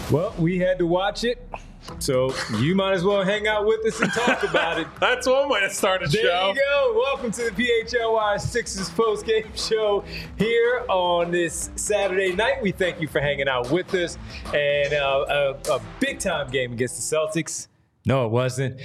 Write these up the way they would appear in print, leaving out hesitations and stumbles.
Well, we had to watch it, so you might as well hang out with us and talk about it. That's one way to start a show. There you go. Welcome to the PHLY Sixers postgame show here on this Saturday night. We thank you for hanging out with us. And a big-time game against the Celtics. No, it wasn't.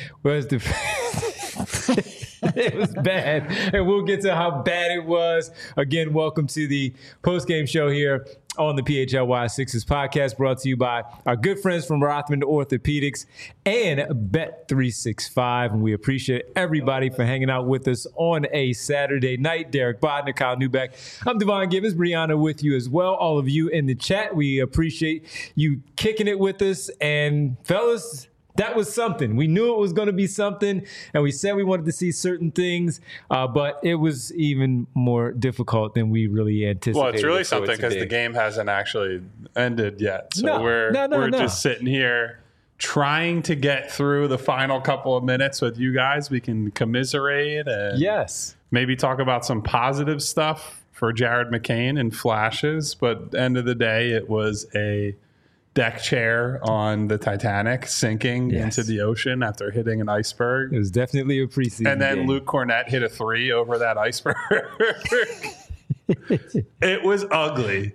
It was bad, and we'll get to how bad it was. Again, welcome to the postgame show here on the PHLY Sixers podcast, brought to you by our good friends from Rothman Orthopedics and Bet365. And we appreciate everybody for hanging out with us on a Saturday night. Derek Bodner, Kyle Newbeck. I'm Devon Gibbons, Brianna with you as well. All of you in the chat, we appreciate you kicking it with us. And fellas, that was something. We knew it was going to be something, and we said we wanted to see certain things, but it was even more difficult than we really anticipated. Well, it's really something because the game hasn't actually ended yet. So we're just sitting here trying to get through the final couple of minutes with you guys. We can commiserate and maybe talk about some positive stuff for Jared McCain and flashes, but at the end of the day, it was a deck chair on the Titanic sinking into the ocean after hitting an iceberg. It was definitely a preseason And then game. Luke Cornett hit a 3 over that iceberg. It was ugly.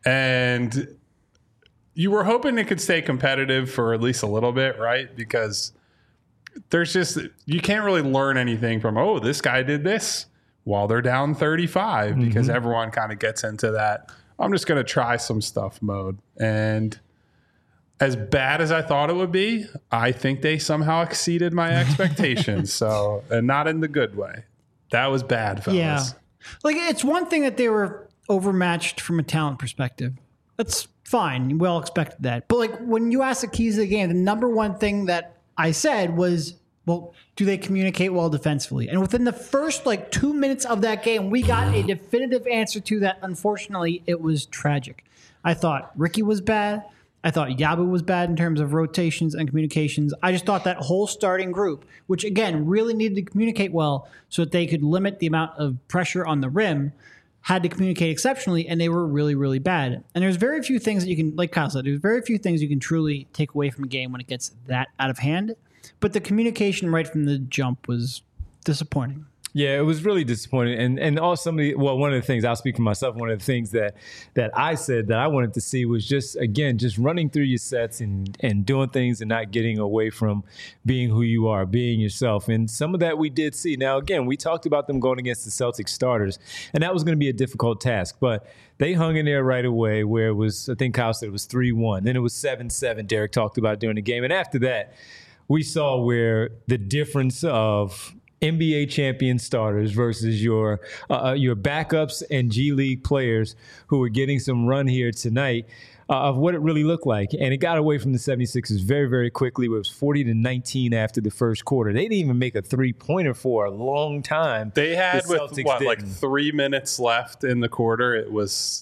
And you were hoping it could stay competitive for at least a little bit, right? Because there's just, you can't really learn anything from, oh, this guy did this while they're down 35, because everyone kind of gets into that, I'm just going to try some stuff mode. And as bad as I thought it would be, I think they somehow exceeded my expectations. So, and not in the good way. That was bad, fellas. Yeah. Like, it's one thing that they were overmatched from a talent perspective. That's fine. We all expected that. But, like, when you ask the keys of the game, the number one thing that I said was, well, do they communicate well defensively? And within the first, 2 minutes of that game, we got a definitive answer to that. Unfortunately, it was tragic. I thought Ricky was bad. I thought Yabu was bad in terms of rotations and communications. I just thought that whole starting group, which again really needed to communicate well so that they could limit the amount of pressure on the rim, had to communicate exceptionally, and they were really, really bad. And there's very few things that you can, like Kyle said, there's very few things you can truly take away from a game when it gets that out of hand. But the communication right from the jump was disappointing. Yeah, it was really disappointing. And also one of the things, I'll speak for myself, one of the things that I said that I wanted to see was just running through your sets and doing things and not getting away from being who you are, being yourself. And some of that we did see. Now, again, we talked about them going against the Celtics starters, and that was going to be a difficult task. But they hung in there right away where it was, I think Kyle said it was 3-1. Then it was 7-7, Derek talked about during the game. And after that, we saw where the difference of NBA champion starters versus your backups and G League players who were getting some run here tonight of what it really looked like. And it got away from the 76ers very, very quickly. It was 40-19 after the first quarter. They didn't even make a three-pointer for a long time. They had, 3 minutes left in the quarter. It was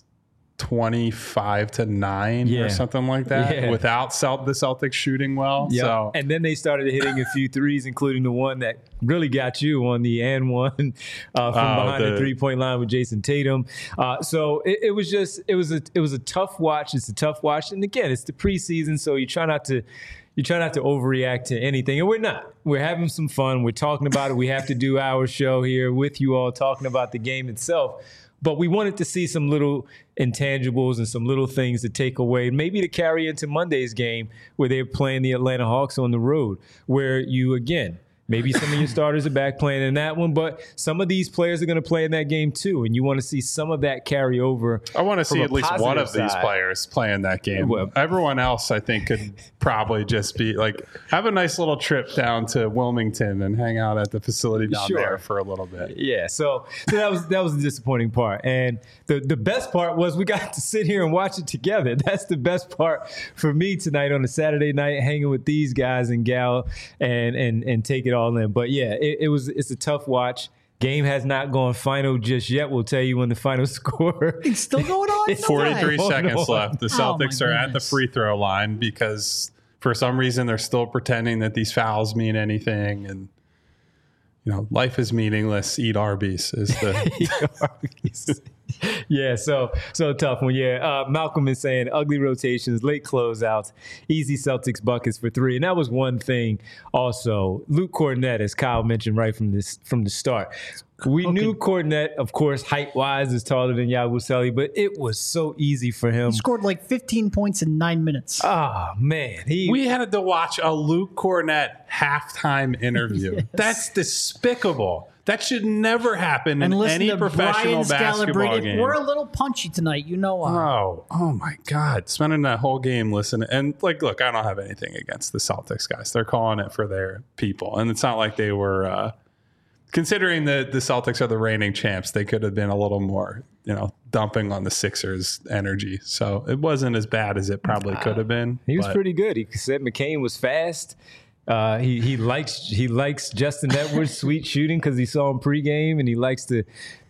25-9 or something like that without the Celtics shooting well. Yep. So, and then they started hitting a few threes, including the one that really got you on the and one from behind the 3-point line with Jason Tatum. So it was a tough watch. It's a tough watch. And again, it's the preseason, so you try not to overreact to anything. And we're not. We're having some fun. We're talking about it. We have to do our show here with you all talking about the game itself. But we wanted to see some little intangibles and some little things to take away, maybe to carry into Monday's game where they're playing the Atlanta Hawks on the road, where you, again, maybe some of your starters are back playing in that one, but some of these players are going to play in that game too, and you want to see some of that carry over. I want to see at least one of these players play in that game. Well, everyone else, I think, could probably just be have a nice little trip down to Wilmington and hang out at the facility down there for a little bit. Yeah, so that was the disappointing part, and the best part was we got to sit here and watch it together. That's the best part for me tonight on a Saturday night, hanging with these guys and gal and take it all in. But yeah, it's a tough watch. Game has not gone final just yet. We'll tell you when the final score. It's still going on. 43 seconds left. The Celtics are at the free throw line because for some reason they're still pretending that these fouls mean anything. And, life is meaningless. Eat Arby's is the... Eat Arby's. Yeah, so tough one. Yeah, Malcolm is saying ugly rotations, late closeouts, easy Celtics buckets for three, and that was one thing. Also, Luke Kornet, as Kyle mentioned right from the start, we knew Kornet, of course, height wise, is taller than Yabusele, but it was so easy for him. He scored like 15 points in 9 minutes. Oh man, we had to watch a Luke Kornet halftime interview. Yes. That's despicable. That should never happen in listen any to professional Brian basketball Scalabrine. game. We're a little punchy tonight, you know why. Oh my God. Spending that whole game listening. And look, I don't have anything against the Celtics guys. They're calling it for their people. And it's not like they were, considering that the Celtics are the reigning champs, they could have been a little more, dumping on the Sixers energy. So it wasn't as bad as it probably could have been. He was pretty good. He said McCain was fast. He likes Justin Edwards' sweet shooting because he saw him pregame, and he likes the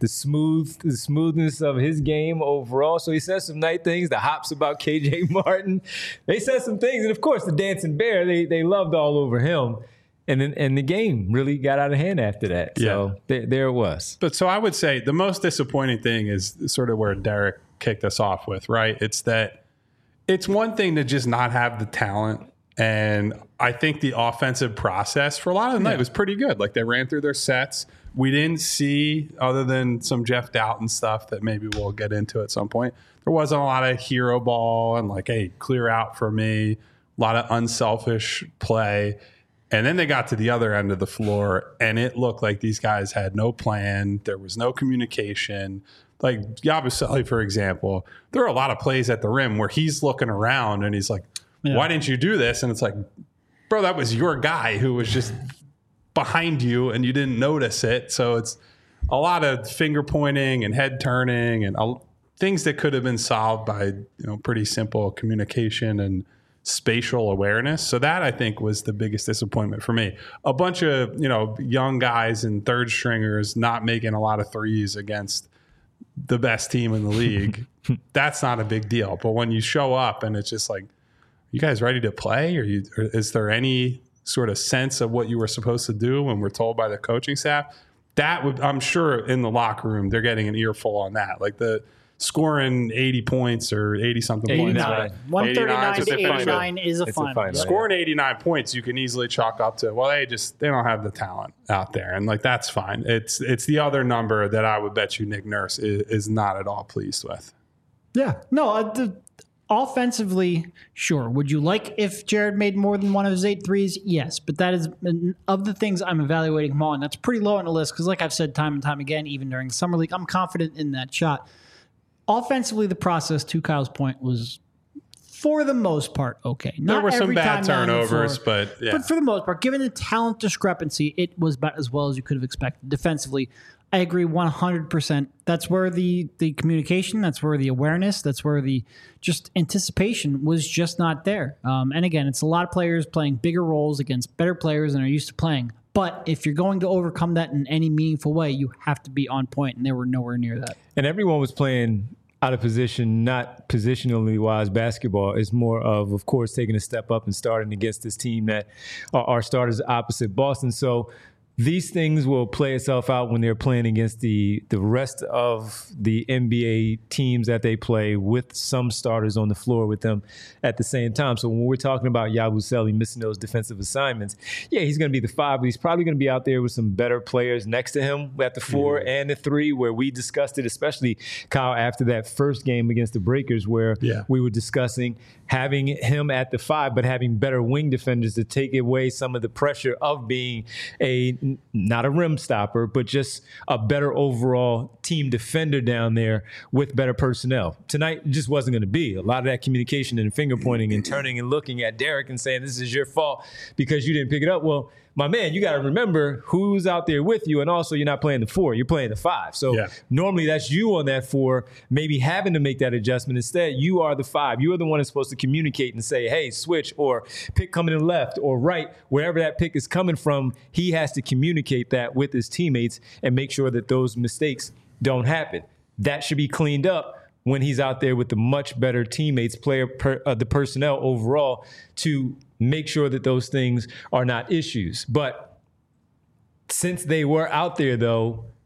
smoothness of his game overall. So he said some nice things. The hops about KJ Martin, they said some things, and of course the dancing bear, they loved all over him. And the game really got out of hand after that. So there it was. But so I would say the most disappointing thing is sort of where Derek kicked us off with, right? It's that it's one thing to just not have the talent. And I think the offensive process for a lot of the night was pretty good. Like they ran through their sets. We didn't see, other than some Jeff Doughton stuff that maybe we'll get into at some point, there wasn't a lot of hero ball and like, hey, clear out for me, a lot of unselfish play. And then they got to the other end of the floor and it looked like these guys had no plan. There was no communication. Like Yabusele, for example, there are a lot of plays at the rim where he's looking around and he's like, why didn't you do this? And it's like, bro, that was your guy who was just behind you and you didn't notice it. So it's a lot of finger pointing and head turning and things that could have been solved by pretty simple communication and spatial awareness. So that I think was the biggest disappointment for me. A bunch of young guys and third stringers not making a lot of threes against the best team in the league. That's not a big deal. But when you show up and it's just like, you guys ready to play? Or is there any sort of sense of what you were supposed to do when we're told by the coaching staff? That would, I'm sure in the locker room, they're getting an earful on that. Like the scoring 80 points or 80 something points. 139 to 89 is a final. Scoring 89 points, you can easily chalk up to, well, they don't have the talent out there. And like, that's fine. It's the other number that I would bet you Nick Nurse is not at all pleased with. Yeah. No, offensively, sure. Would you like if Jared made more than one of his 8 threes? Yes. But that is, of the things I'm evaluating him on, that's pretty low on the list because like I've said time and time again, even during the Summer League, I'm confident in that shot. Offensively, the process, to Kyle's point, was for the most part okay. There were some bad turnovers, but yeah. But for the most part, given the talent discrepancy, it was about as well as you could have expected. Defensively, I agree 100%. That's where the communication, that's where the awareness, that's where the just anticipation was just not there. And again, it's a lot of players playing bigger roles against better players than are used to playing. But if you're going to overcome that in any meaningful way, you have to be on point, and they were nowhere near that. And everyone was playing out of position, not positionally wise basketball. It's more of course, taking a step up and starting against this team that are starters opposite Boston. So these things will play itself out when they're playing against the rest of the NBA teams that they play with some starters on the floor with them at the same time. So when we're talking about Yabusele missing those defensive assignments, yeah, he's going to be the 5, but he's probably going to be out there with some better players next to him at the 4 and the 3, where we discussed it, especially Kyle after that first game against the Breakers, where we were discussing having him at the 5, but having better wing defenders to take away some of the pressure of being not a rim stopper, but just a better overall team defender down there with better personnel. Tonight it just wasn't going to be. A lot of that communication and finger pointing and turning and looking at Derek and saying, this is your fault because you didn't pick it up. Well, my man, you got to remember who's out there with you. And also you're not playing the 4, you're playing the 5. So normally that's you on that 4, maybe having to make that adjustment. Instead, you are the 5. You are the one that's supposed to communicate and say, hey, switch, or pick coming in left or right, wherever that pick is coming from. He has to communicate that with his teammates and make sure that those mistakes don't happen. That should be cleaned up when he's out there with the much better teammates, the personnel overall, to make sure that those things are not issues. But since they were out there, though,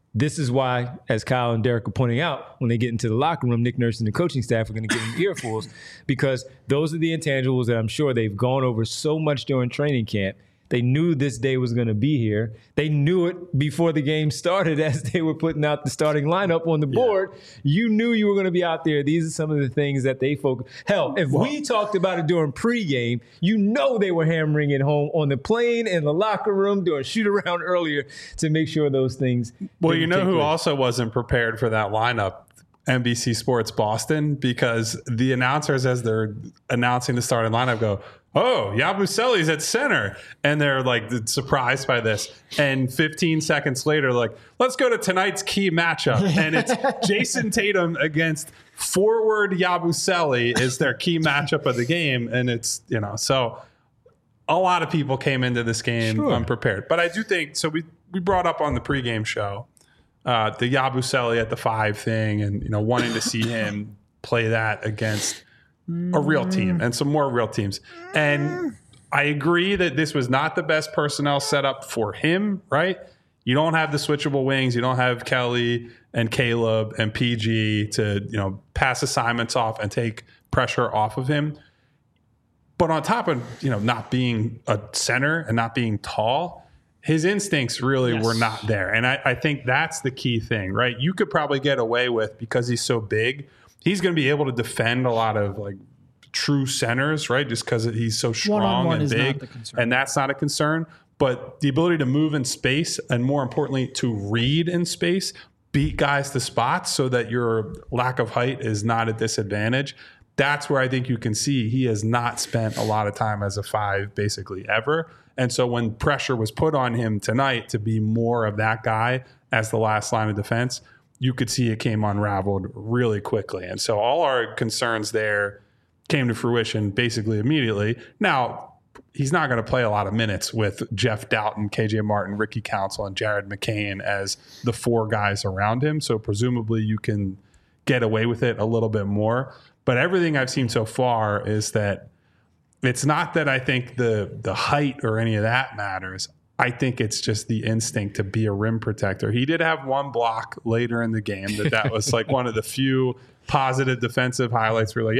This is why, as Kyle and Derek are pointing out, when they get into the locker room, Nick Nurse and the coaching staff are going to give them earfuls, because those are the intangibles that I'm sure they've gone over so much during training camp. They knew this day was going to be here. They knew it before the game started as they were putting out the starting lineup on the board. You knew you were going to be out there. These are some of the things that they focus. Hell, if we talked about it during pregame, you know they were hammering it home on the plane, in the locker room, doing shoot around earlier to make sure those things. Well, you know who also wasn't prepared for that lineup? NBC Sports Boston, because the announcers, as they're announcing the starting lineup, go, "Oh, Yabusele's at center," and they're like surprised by this. And 15 seconds later, like, let's go to tonight's key matchup, and it's Jason Tatum against forward Yabusele is their key matchup of the game, and it's so a lot of people came into this game unprepared. But I do think so. We brought up on the pregame show the Yabusele at the 5 thing, and wanting to see him play that against a real team and some more real teams. And I agree that this was not the best personnel setup for him, right? You don't have the switchable wings. You don't have Kelly and Caleb and PG to, pass assignments off and take pressure off of him. But on top of, not being a center and not being tall, his instincts really were not there. And I think that's the key thing, right? You could probably get away with, because he's so big, he's going to be able to defend a lot of like true centers, right? Just because he's so strong and big, and that's not a concern. But the ability to move in space, and more importantly, to read in space, beat guys to spots so that your lack of height is not a disadvantage. That's where I think you can see he has not spent a lot of time as a 5 basically ever. And so when pressure was put on him tonight to be more of that guy as the last line of defense, you could see it came unraveled really quickly. And so all our concerns there came to fruition basically immediately. Now, he's not going to play a lot of minutes with Jeff Doughton, KJ Martin, Ricky Council, and Jared McCain as the 4 guys around him. So presumably you can get away with it a little bit more. But everything I've seen so far is that it's not that I think the height or any of that matters. I think it's just the instinct to be a rim protector. He did have one block later in the game that was like one of the few positive defensive highlights. We're like,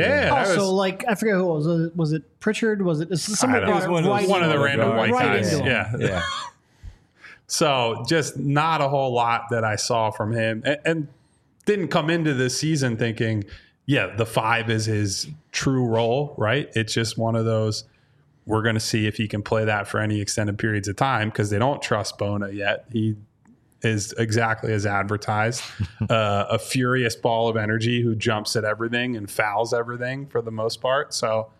I forget who it was. Was it Pritchard? Was it somebody? It was one of the random white guys. Yeah. So just not a whole lot that I saw from him, and didn't come into this season thinking, the 5 is his true role, right? It's just one of those, we're going to see if he can play that for any extended periods of time, because they don't trust Bona yet. He is exactly as advertised, a furious ball of energy who jumps at everything and fouls everything for the most part. So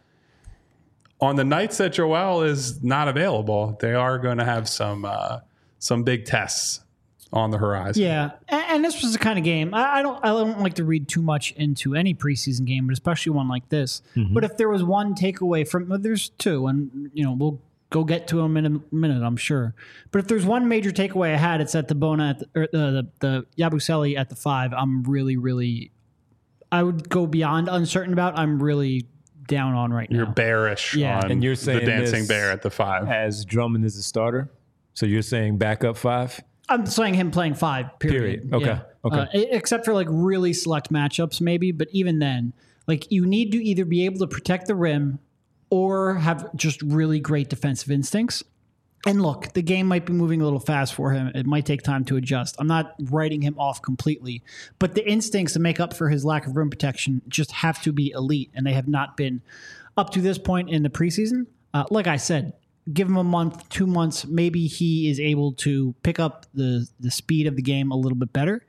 on the nights that Joel is not available, they are going to have some big tests on the horizon. Yeah, and this was the kind of game I don't like to read too much into any preseason game, but especially one like this. Mm-hmm. But if there was one takeaway from, there's 2, and we'll go get to them in a minute, I'm sure. But if there's one major takeaway I had, it's at the Bona the Yabusele at the 5. I'm really, really, I would go beyond uncertain about. I'm really down on right now. You're bearish on and you're saying the dancing bear at the 5 as Drummond is a starter. So you're saying backup 5. I'm saying him playing 5, period. Okay. Yeah. Okay. Except for like really select matchups maybe, but even then, like you need to either be able to protect the rim or have just really great defensive instincts. And look, the game might be moving a little fast for him. It might take time to adjust. I'm not writing him off completely, but the instincts to make up for his lack of rim protection just have to be elite, and they have not been up to this point in the preseason. Like I said, give him a month, 2 months, maybe he is able to pick up the speed of the game a little bit better.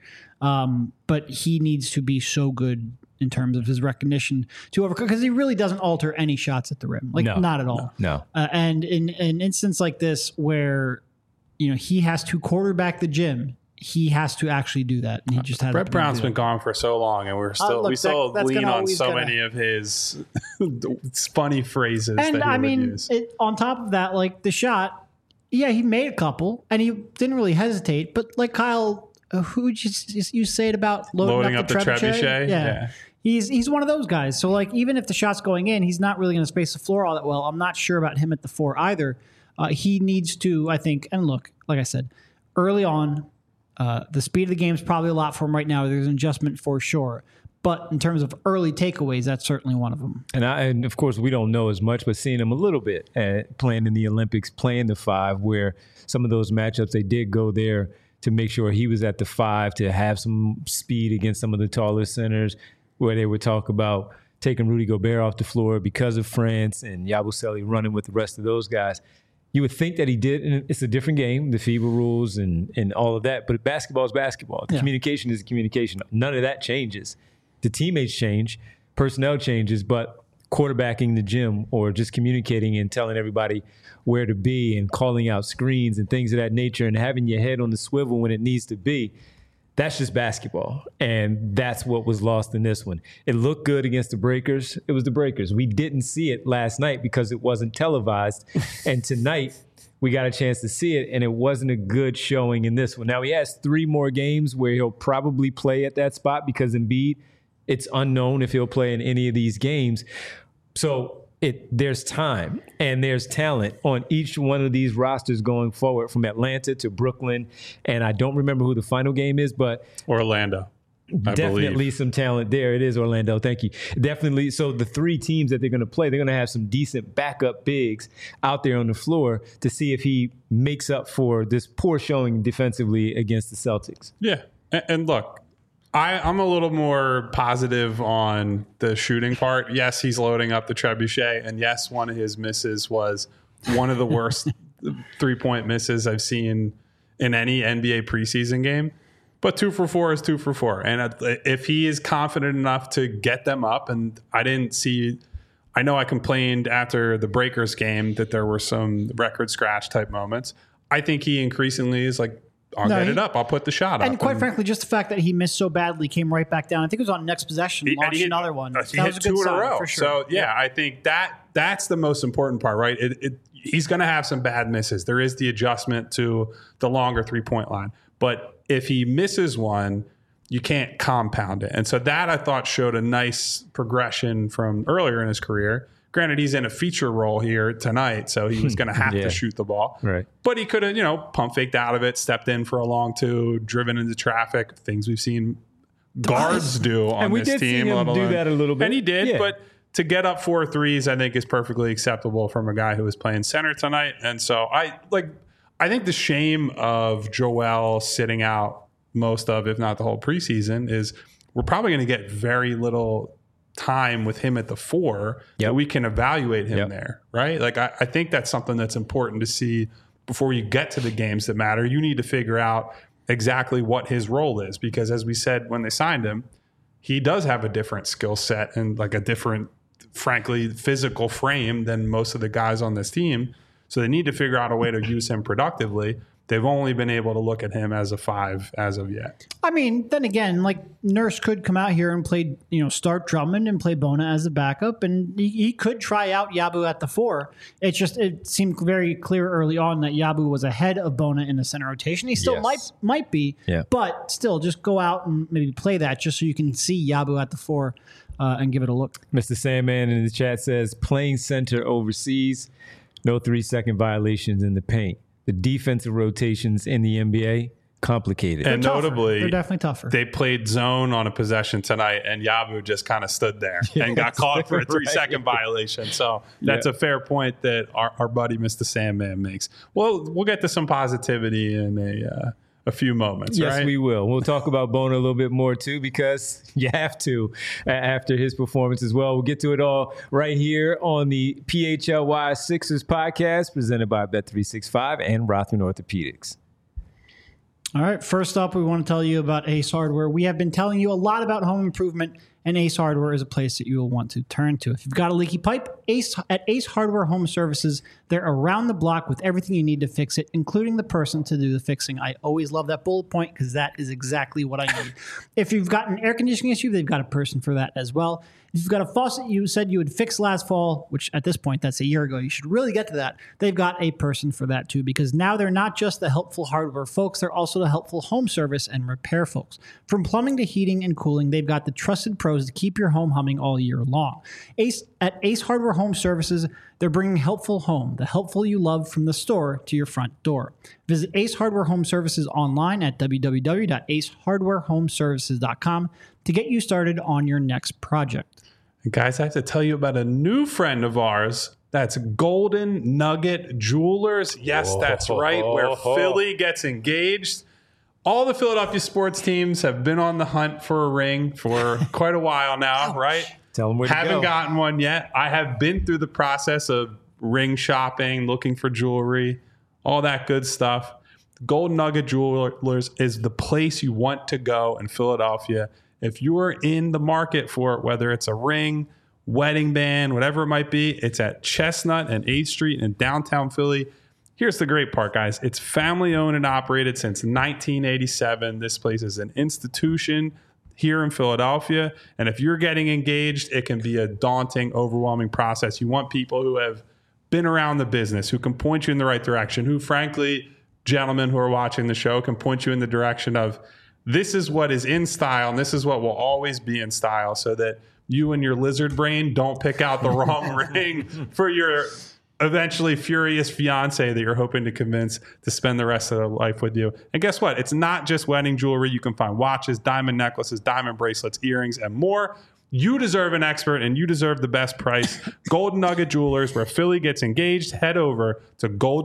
But he needs to be so good in terms of his recognition to overcome, because he really doesn't alter any shots at the rim. Not at all. No. And in an instance like this where, he has to quarterback the gym, he has to actually do that. And he just has Brett Brown's been gone for so long, and we still lean on so many of his funny phrases that he would use. On top of that, like the shot, he made a couple and he didn't really hesitate, but like Kyle, who you say it about loading up the trebuchet? Yeah. He's one of those guys. So like, even if the shot's going in, he's not really going to space the floor all that well. I'm not sure about him at the 4 either. He needs to, I think, and look, like I said, early on, The speed of the game is probably a lot for him right now. There's an adjustment for sure. But in terms of early takeaways, that's certainly one of them. And of course, we don't know as much, but seeing him a little bit playing in the Olympics, playing the 5, where some of those matchups, they did go there to make sure he was at the 5 to have some speed against some of the taller centers, where they would talk about taking Rudy Gobert off the floor because of France and Yabusele running with the rest of those guys. You would think that he did, and it's a different game, the FIBA rules and all of that, but basketball is basketball. The communication is communication. None of that changes. The teammates change, personnel changes, but quarterbacking the gym or just communicating and telling everybody where to be and calling out screens and things of that nature and having your head on the swivel when it needs to be, that's just basketball. And that's what was lost in this one. It looked good against the Breakers. It was the Breakers. We didn't see it last night because it wasn't televised. And tonight, we got a chance to see it, and it wasn't a good showing in this one. Now, he has 3 more games where he'll probably play at that spot because Embiid, it's unknown if he'll play in any of these games. So there's time and there's talent on each one of these rosters going forward, from Atlanta to Brooklyn. And I don't remember who the final game is, but Orlando. Definitely some talent there. It is Orlando. Thank you. Definitely. So the 3 teams that they're going to play, they're going to have some decent backup bigs out there on the floor to see if he makes up for this poor showing defensively against the Celtics. Yeah. And look, I'm a little more positive on the shooting part. Yes, he's loading up the trebuchet. And yes, one of his misses was one of the worst 3-point misses I've seen in any NBA preseason game. But 2 for 4 is 2 for 4. And if he is confident enough to get them up, and I know I complained after the Breakers game that there were some record scratch type moments. I think he increasingly is like, I'll get it up. I'll put the shot up. And quite frankly, just the fact that he missed so badly, came right back down. I think it was on next possession, launched another one. He hit 2 in a row. For sure. So, yeah, I think that's the most important part, right? He's going to have some bad misses. There is the adjustment to the longer 3-point line. But if he misses one, you can't compound it. And so that, I thought, showed a nice progression from earlier in his career. Granted, he's in a feature role here tonight, so he was going to have to shoot the ball. Right. But he could have, pump faked out of it, stepped in for a long 2, driven into traffic, things we've seen guards do on this team. And we did see him do that a little bit. And he did, but to get up 4 threes, I think is perfectly acceptable from a guy who was playing center tonight. And so I think the shame of Joel sitting out most of, if not the whole preseason, is we're probably going to get very little time with him at the 4 that we can evaluate him there, right? Like, I think that's something that's important to see before you get to the games that matter. You need to figure out exactly what his role is, because as we said when they signed him, he does have a different skill set and like a different, frankly, physical frame than most of the guys on this team. So they need to figure out a way to use him productively. They've only been able to look at him as a 5 as of yet. I mean, then again, like, Nurse could come out here and play, start Drummond and play Bona as a backup, and he could try out Yabu at the 4. It seemed very clear early on that Yabu was ahead of Bona in the center rotation. He still might be, but still, just go out and maybe play that just so you can see Yabu at the 4 and give it a look. Mr. Sandman in the chat says, playing center overseas, no 3-second violations in the paint. The defensive rotations in the NBA, complicated. And notably, they're definitely tougher. They played zone on a possession tonight, and Yabu just kind of stood there and got caught for a 3-second violation. So that's a fair point that our buddy Mr. Sandman makes. Well, we'll get to some positivity in a few moments, yes, right? We will. We'll talk about Bona a little bit more, too, because you have to after his performance as well. We'll get to it all right here on the PHLY Sixers podcast presented by Bet365 and Rothman Orthopedics. All right, first up, we want to tell you about Ace Hardware. We have been telling you a lot about home improvement, and Ace Hardware is a place that you will want to turn to. If you've got a leaky pipe, at Ace Hardware Home Services, they're around the block with everything you need to fix it, including the person to do the fixing. I always love that bullet point because that is exactly what I need. If you've got an air conditioning issue, they've got a person for that as well. If you've got a faucet you said you would fix last fall, which at this point, that's a year ago, you should really get to that. They've got a person for that too, because now they're not just the helpful hardware folks, they're also the helpful home service and repair folks. From plumbing to heating and cooling, they've got the trusted pros pros to keep your home humming all year long. At Ace Hardware Home Services, they're bringing helpful home, the helpful you love from the store to your front door. Visit Ace Hardware Home Services online at www.acehardwarehomeservices.com to get you started on your next project. And guys, I have to tell you about a new friend of ours. That's Golden Nugget Jewelers. Yes, that's right, where Philly gets engaged. All the Philadelphia sports teams have been on the hunt for a ring for quite a while now, right? Tell them where to go. Haven't gotten one yet. I have been through the process of ring shopping, looking for jewelry, all that good stuff. Golden Nugget Jewelers is the place you want to go in Philadelphia. If you are in the market for it, whether it's a ring, wedding band, whatever it might be, it's at Chestnut and 8th Street in downtown Philly. Here's the great part, guys. It's family owned and operated since 1987. This place is an institution here in Philadelphia. And if you're getting engaged, it can be a daunting, overwhelming process. You want people who have been around the business, who can point you in the right direction, who, frankly, gentlemen who are watching the show, can point you in the direction of this is what is in style and this is what will always be in style, so that you and your lizard brain don't pick out the wrong ring for your eventually furious fiance that you're hoping to convince to spend the rest of their life with you. And guess what? It's not just wedding jewelry. You can find watches, diamond necklaces, diamond bracelets, earrings, and more. You deserve an expert and you deserve the best price. Golden Nugget Jewelers, where Philly gets engaged. Head over to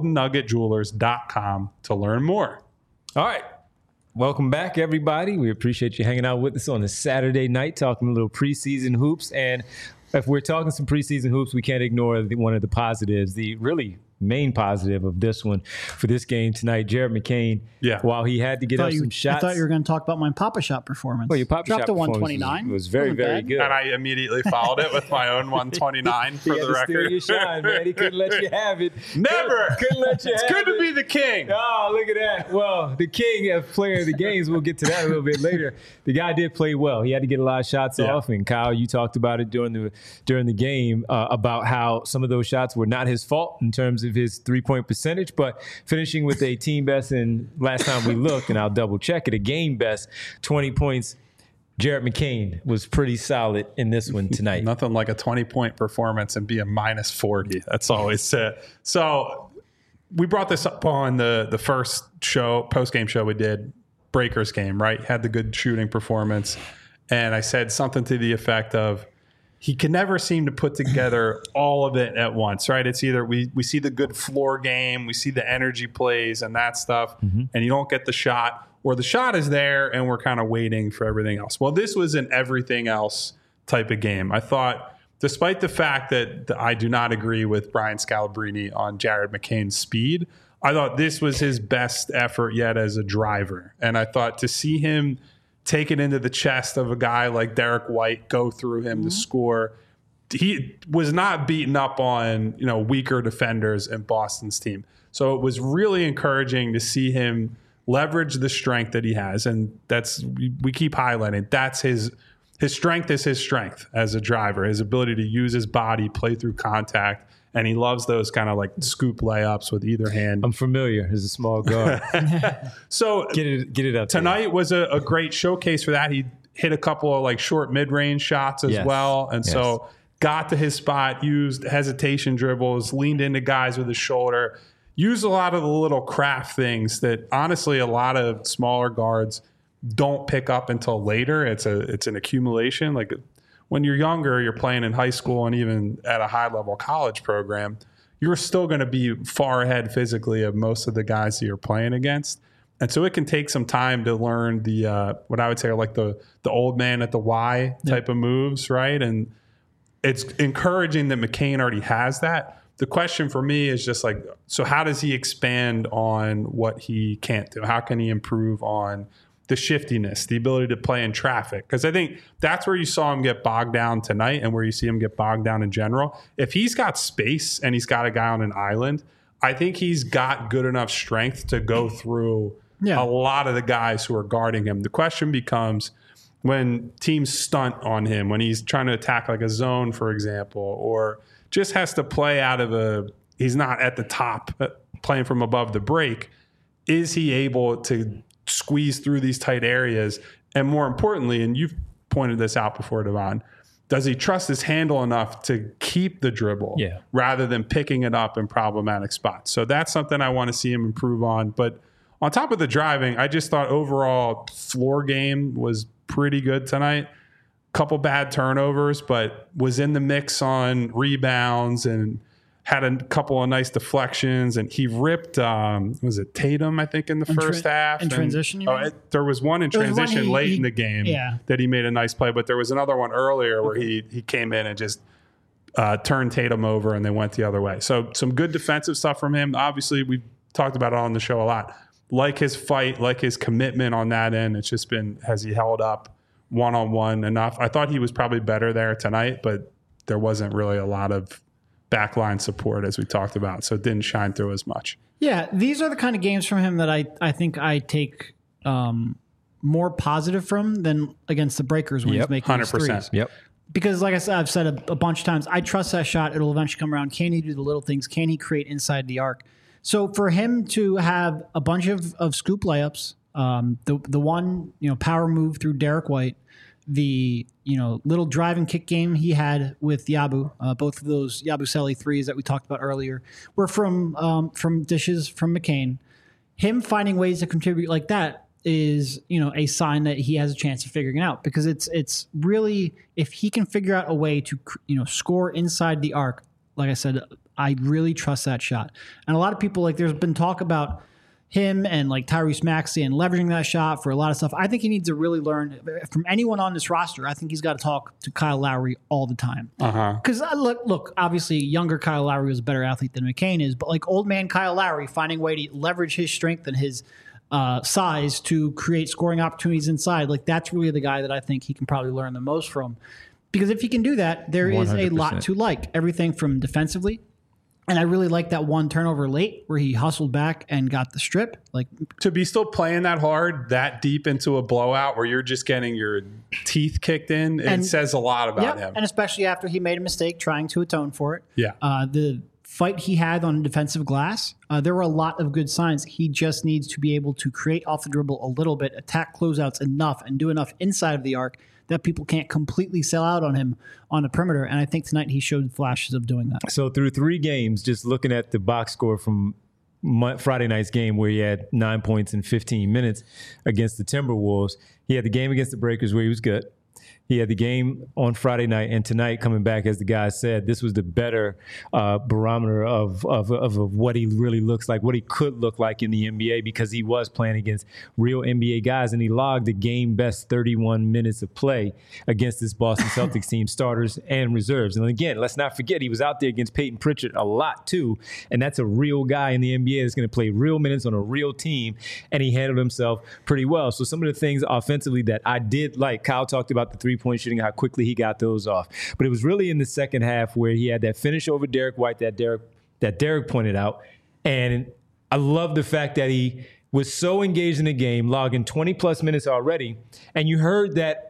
goldennuggetjewelers.com to learn more. All right. Welcome back, everybody. We appreciate you hanging out with us on a Saturday night, talking a little preseason hoops. And if we're talking some preseason hoops, we can't ignore one of the positives, the really main positive of this one for this game tonight. Jared McCain, while he had to get up some shots. I thought you were going to talk about my Papa Shot performance. Well, your Papa Dropped Shot to 129. was very, very good. And I immediately followed it with my own 129 for the record. Steal your shine, man. He couldn't let you have it. Never. Couldn't let you have it. It's good to be the king. Oh, look at that. Well, the king of player of the games, we'll get to that a little bit later. The guy did play well. He had to get a lot of shots off. And Kyle, you talked about it during the game about how some of those shots were not his fault in terms of his three-point percentage, but finishing with a team best, and last time we looked, and I'll double check it, a game best, 20 points. Jared McCain was pretty solid in this one tonight. Nothing like a 20-point performance and be a minus 40. That's always it. So we brought this up on the first show, post-game show we did, Breakers game, right? Had the good shooting performance. And I said something to the effect of, he can never seem to put together all of it at once, right? It's either we see the good floor game, we see the energy plays and that stuff, and you don't get the shot, or the shot is there and we're kind of waiting for everything else. Well, this was an everything else type of game. I thought, despite the fact that I do not agree with Brian Scalabrine on Jared McCain's speed, I thought this was his best effort yet as a driver. And I thought to see him take it into the chest of a guy like Derek White, go through him to score. He was not beaten up on, weaker defenders in Boston's team. So it was really encouraging to see him leverage the strength that he has. And we keep highlighting, that's his strength is his strength as a driver, his ability to use his body, play through contact. And he loves those kind of like scoop layups with either hand. I'm familiar as a small guard. So get it up. Tonight was a great showcase for that. He hit a couple of like short mid-range shots as well. And so got to his spot, used hesitation dribbles, leaned into guys with his shoulder, used a lot of the little craft things that honestly a lot of smaller guards don't pick up until later. It's an accumulation. Like when you're younger, you're playing in high school and even at a high-level college program, you're still going to be far ahead physically of most of the guys that you're playing against. And so it can take some time to learn the what I would say are like the old man at the Y type of moves, right? And it's encouraging that McCain already has that. The question for me is just like, so how does he expand on what he can't do? How can he improve on the shiftiness, the ability to play in traffic? Because I think that's where you saw him get bogged down tonight and where you see him get bogged down in general. If he's got space and he's got a guy on an island, I think he's got good enough strength to go through a lot of the guys who are guarding him. The question becomes when teams stunt on him, when he's trying to attack like a zone, for example, or just has to play out of he's not at the top playing from above the break. Is he able to squeeze through these tight areas? And more importantly, and you've pointed this out before, Devon. Does he trust his handle enough to keep the dribble rather than picking it up in problematic spots? So that's something I want to see him improve on. But on top of the driving, I just thought overall floor game was pretty good tonight. Couple bad turnovers, but was in the mix on rebounds and had a couple of nice deflections. And he ripped, was it Tatum, I think, in the first half? In transition, you mean? There was one in transition late in the game that he made a nice play, but there was another one earlier where he came in and just turned Tatum over and they went the other way. So some good defensive stuff from him. Obviously, we've talked about it on the show a lot. Like his fight, like his commitment on that end, it's just been, has he held up one-on-one enough? I thought he was probably better there tonight, but there wasn't really a lot of backline support as we talked about, so it didn't shine through as much. Yeah, these are the kind of games from him that I think I take more positive from than against the Breakers when he's making his threes. Yep. Because like I said, I've said a bunch of times, I trust that shot. It'll eventually come around. Can he do the little things? Can he create inside the arc? So for him to have a bunch of scoop layups, the one power move through Derek White, the little drive and kick game he had with Yabu, both of those Yabusele threes that we talked about earlier were from dishes from McCain. Him finding ways to contribute like that is a sign that he has a chance of figuring it out, because it's really, if he can figure out a way to score inside the arc, like I said, I really trust that shot. And a lot of people, there's been talk about him and Tyrese Maxey and leveraging that shot for a lot of stuff. I think he needs to really learn from anyone on this roster. I think he's got to talk to Kyle Lowry all the time. Because look, obviously younger Kyle Lowry was a better athlete than McCain is, but old man Kyle Lowry finding a way to leverage his strength and his size to create scoring opportunities inside. That's really the guy that I think he can probably learn the most from. Because if he can do that, there 100%. Is a lot to like. Everything from defensively. And I really like that one turnover late where he hustled back and got the strip. To be still playing that hard, that deep into a blowout where you're just getting your teeth kicked in, it says a lot about him. And especially after he made a mistake trying to atone for it. Yeah. The fight he had on defensive glass, there were a lot of good signs. He just needs to be able to create off the dribble a little bit, attack closeouts enough, and do enough inside of the arc that people can't completely sell out on him on the perimeter. And I think tonight he showed flashes of doing that. So through 3 games, just looking at the box score from Friday night's game where he had 9 points in 15 minutes against the Timberwolves, he had the game against the Breakers where he was good. He had the game on Friday night, and tonight coming back, as the guy said, this was the better barometer of what he really looks like, what he could look like in the NBA, because he was playing against real NBA guys, and he logged the game-best 31 minutes of play against this Boston Celtics team, starters and reserves. And again, let's not forget, he was out there against Peyton Pritchard a lot too, and that's a real guy in the NBA that's going to play real minutes on a real team, and he handled himself pretty well. So some of the things offensively that I did like, Kyle talked about the three-point shooting, how quickly he got those off. But it was really in the second half where he had that finish over Derek White that Derek pointed out. And I love the fact that he was so engaged in the game, logging 20-plus minutes already. And you heard that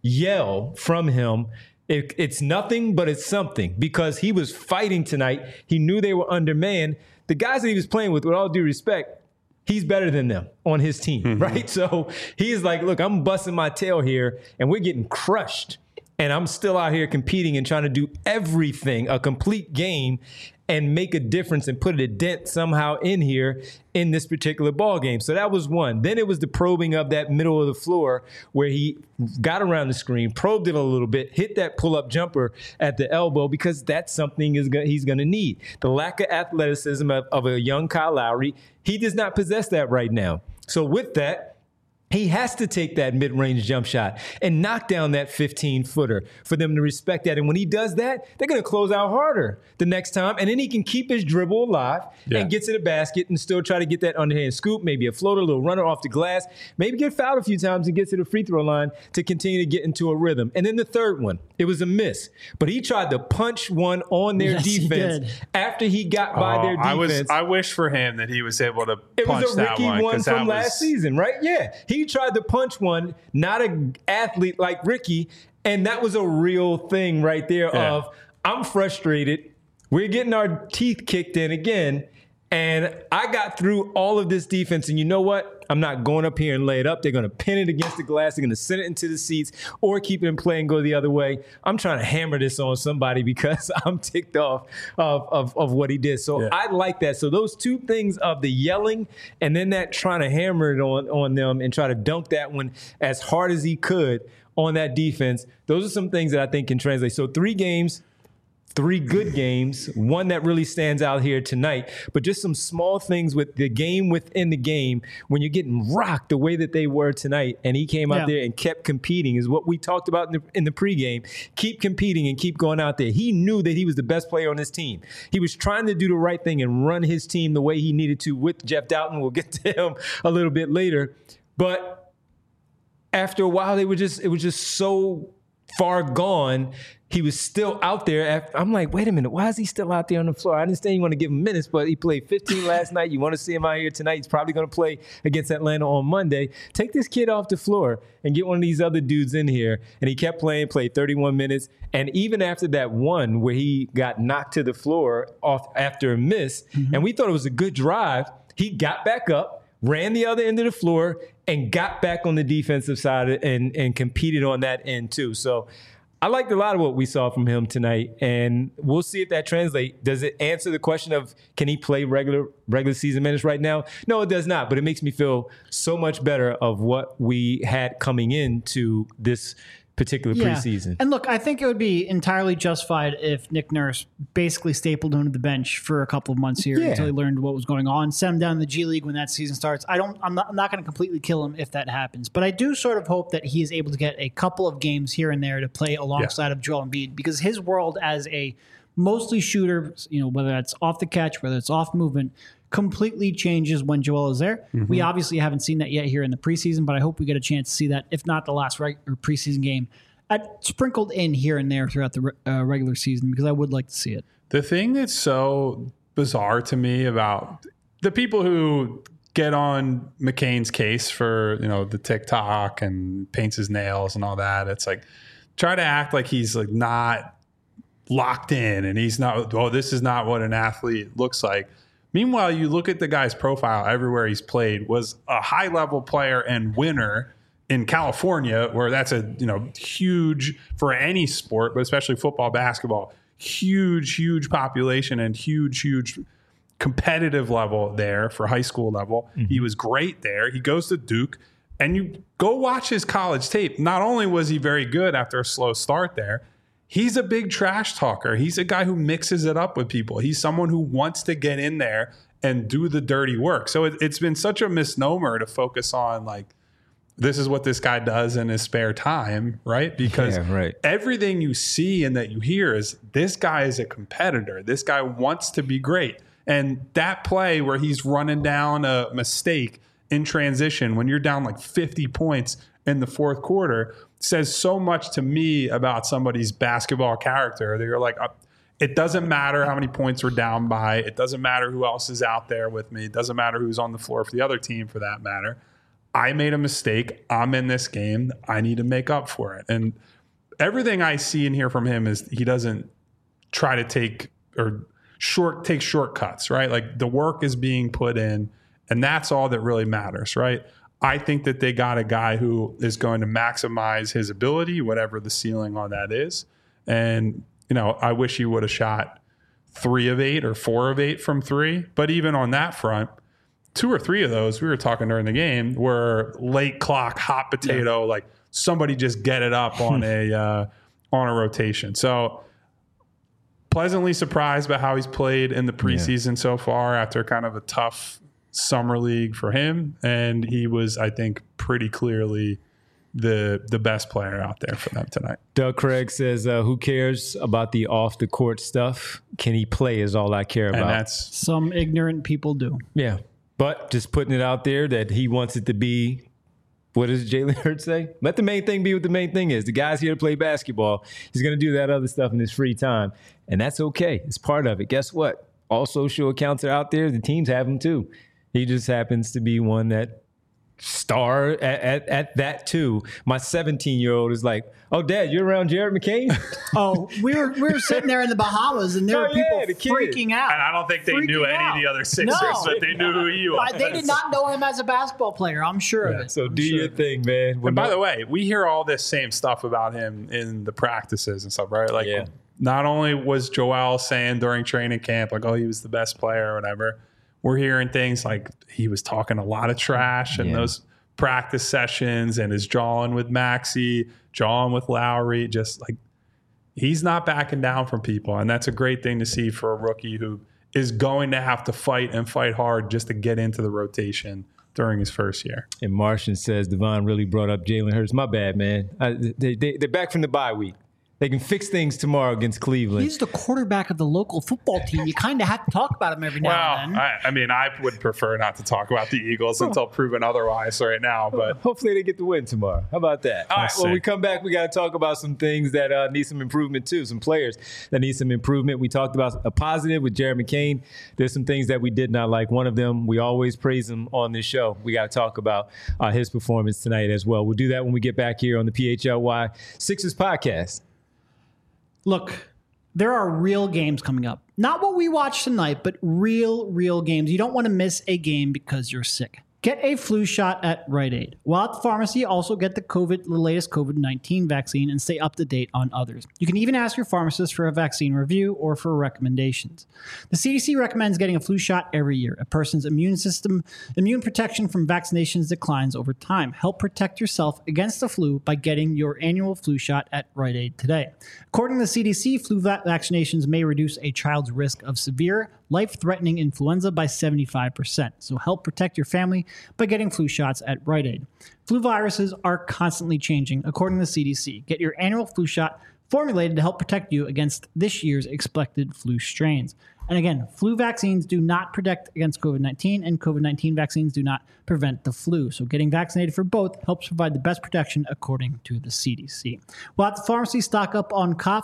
yell from him. It's nothing, but it's something, because he was fighting tonight. He knew they were undermanned. The guys that he was playing with all due respect, he's better than them on his team, right? So he's like, look, I'm busting my tail here, and we're getting crushed. And I'm still out here competing and trying to do everything, a complete game, and make a difference and put a dent somehow in here in this particular ball game. So that was one. Then it was the probing of that middle of the floor where he got around the screen, probed it a little bit, hit that pull-up jumper at the elbow, because that's something he's going to need. The lack of athleticism of a young Kyle Lowry, he does not possess that right now. So with that, he has to take that mid-range jump shot and knock down that 15-footer for them to respect that. And when he does that, they're going to close out harder the next time. And then he can keep his dribble alive and get to the basket and still try to get that underhand scoop, maybe a floater, a little runner off the glass, maybe get fouled a few times and get to the free throw line to continue to get into a rhythm. And then the third one, it was a miss. But he tried to punch one on their defense after he got by their defense. I wish for him that he was able to punch that one. It was a Ricky one from last season, right? Yeah. He tried to punch one, not an athlete like Ricky, and that was a real thing right there of, I'm frustrated. We're getting our teeth kicked in again, And I got through all of this defense, and you know what? I'm not going up here and lay it up. They're going to pin it against the glass. They're going to send it into the seats or keep it in play and go the other way. I'm trying to hammer this on somebody because I'm ticked off of what he did. So I like that. So those two things of the yelling and then that trying to hammer it on them and try to dunk that one as hard as he could on that defense, those are some things that I think can translate. So 3 games. 3 good games, one that really stands out here tonight, but just some small things with the game within the game when you're getting rocked the way that they were tonight. And he came out there and kept competing is what we talked about in the pregame. Keep competing and keep going out there. He knew that he was the best player on his team. He was trying to do the right thing and run his team the way he needed to with Jeff Doughton. We'll get to him a little bit later. But after a while, it was just so far gone. He was still out there. I'm like, wait a minute, why is he still out there on the floor? I understand you want to give him minutes, but he played 15 last night. You want to see him out here tonight. He's probably going to play against Atlanta on Monday. Take this kid off the floor and get one of these other dudes in here. And he kept playing, played 31 minutes. And even after that one where he got knocked to the floor off after a miss, and we thought it was a good drive, he got back up, ran the other end of the floor, and got back on the defensive side and competed on that end too. So I liked a lot of what we saw from him tonight, and we'll see if that translates. Does it answer the question of can he play regular season minutes right now? No, it does not, but it makes me feel so much better of what we had coming into this particular preseason. And look, I think it would be entirely justified if Nick Nurse basically stapled him to the bench for a couple of months here until he learned what was going on, sent him down to the G League when that season starts. I'm not going to completely kill him if that happens, but I do sort of hope that he is able to get a couple of games here and there to play alongside of Joel Embiid, because his world as a mostly shooter, whether that's off the catch, whether it's off movement, completely changes when Joel is there. We obviously haven't seen that yet here in the preseason, but I hope we get a chance to see that, if not the last preseason game, sprinkled in here and there throughout the regular season, because I would like to see it. The thing that's so bizarre to me about the people who get on McCain's case for, the TikTok and paints his nails and all that, it's like try to act like he's like not locked in and he's not, this is not what an athlete looks like. Meanwhile, you look at the guy's profile everywhere he's played, was a high-level player and winner in California, where that's a huge for any sport, but especially football, basketball, huge population and huge competitive level there for high school level. He was great there. He goes to Duke, and you go watch his college tape. Not only was he very good after a slow start there, he's a big trash talker. He's a guy who mixes it up with people. He's someone who wants to get in there and do the dirty work. So it's been such a misnomer to focus on like, this is what this guy does in his spare time, right? Because everything you see and that you hear is this guy is a competitor. This guy wants to be great. And that play where he's running down a mistake in transition when you're down like 50 points in the fourth quarter says so much to me about somebody's basketball character. They're like, it doesn't matter how many points we're down by. It doesn't matter who else is out there with me. It doesn't matter who's on the floor for the other team, for that matter. I made a mistake. I'm in this game. I need to make up for it. And everything I see and hear from him is he doesn't try to take shortcuts, right? Like the work is being put in, and that's all that really matters, right? I think that they got a guy who is going to maximize his ability, whatever the ceiling on that is. And, I wish he would have shot 3 of 8 or 4 of 8 from 3. But even on that front, 2 or 3 of those, we were talking during the game, were late clock, hot potato, like somebody just get it up on a rotation. So pleasantly surprised by how he's played in the preseason so far after kind of a tough summer league for him, and he was, I think, pretty clearly the best player out there for them tonight. Doug Craig says, who cares about the off the court stuff? Can he play is all I care about. And that's some ignorant people do. Yeah, but just putting it out there that he wants it to be, what does Jalen Hurts say? Let the main thing be what the main thing is. The guy's here to play basketball. He's going to do that other stuff in his free time, and that's okay. It's part of it. Guess what? All social accounts are out there. The teams have them too. He just happens to be one that star at that too. My 17-year-old is like, "Oh, Dad, you're around Jared McCain?" Oh, we were sitting there in the Bahamas, and there were people the kid. freaking out. And I don't think they knew any of the other Sixers, but they knew who he was. They did not know him as a basketball player. I'm sure of it. So do your thing, man. And by the way, we hear all this same stuff about him in the practices and stuff, right? Like, not only was Joel saying during training camp, like, oh, he was the best player or whatever, we're hearing things like he was talking a lot of trash in those practice sessions and is jawing with Maxey, jawing with Lowry, just like he's not backing down from people. And that's a great thing to see for a rookie who is going to have to fight and fight hard just to get into the rotation during his first year. And Martian says Devon really brought up Jalen Hurts. My bad, man. They're back from the bye week. They can fix things tomorrow against Cleveland. He's the quarterback of the local football team. You kind of have to talk about him every now and then. I mean, I would prefer not to talk about the Eagles until proven otherwise right now. But hopefully they get the win tomorrow. How about that? All right, when we come back, we got to talk about some things that need some improvement too, some players that need some improvement. We talked about a positive with Jared McCain. There's some things that we did not like. One of them, we always praise him on this show. We got to talk about his performance tonight as well. We'll do that when we get back here on the PHLY Sixers podcast. Look, there are real games coming up. Not what we watched tonight, but real games. You don't want to miss a game because you're sick. Get a flu shot at Rite Aid. While at the pharmacy, also get the latest COVID-19 vaccine and stay up to date on others. You can even ask your pharmacist for a vaccine review or for recommendations. The CDC recommends getting a flu shot every year. A person's immune protection from vaccinations declines over time. Help protect yourself against the flu by getting your annual flu shot at Rite Aid today. According to the CDC, flu vaccinations may reduce a child's risk of severe, life-threatening influenza by 75%. So help protect your family by getting flu shots at Rite Aid. Flu viruses are constantly changing, according to the CDC. Get your annual flu shot formulated to help protect you against this year's expected flu strains. And again, flu vaccines do not protect against COVID-19, and COVID-19 vaccines do not prevent the flu. So getting vaccinated for both helps provide the best protection, according to the CDC. While at the pharmacy, stock up on cough,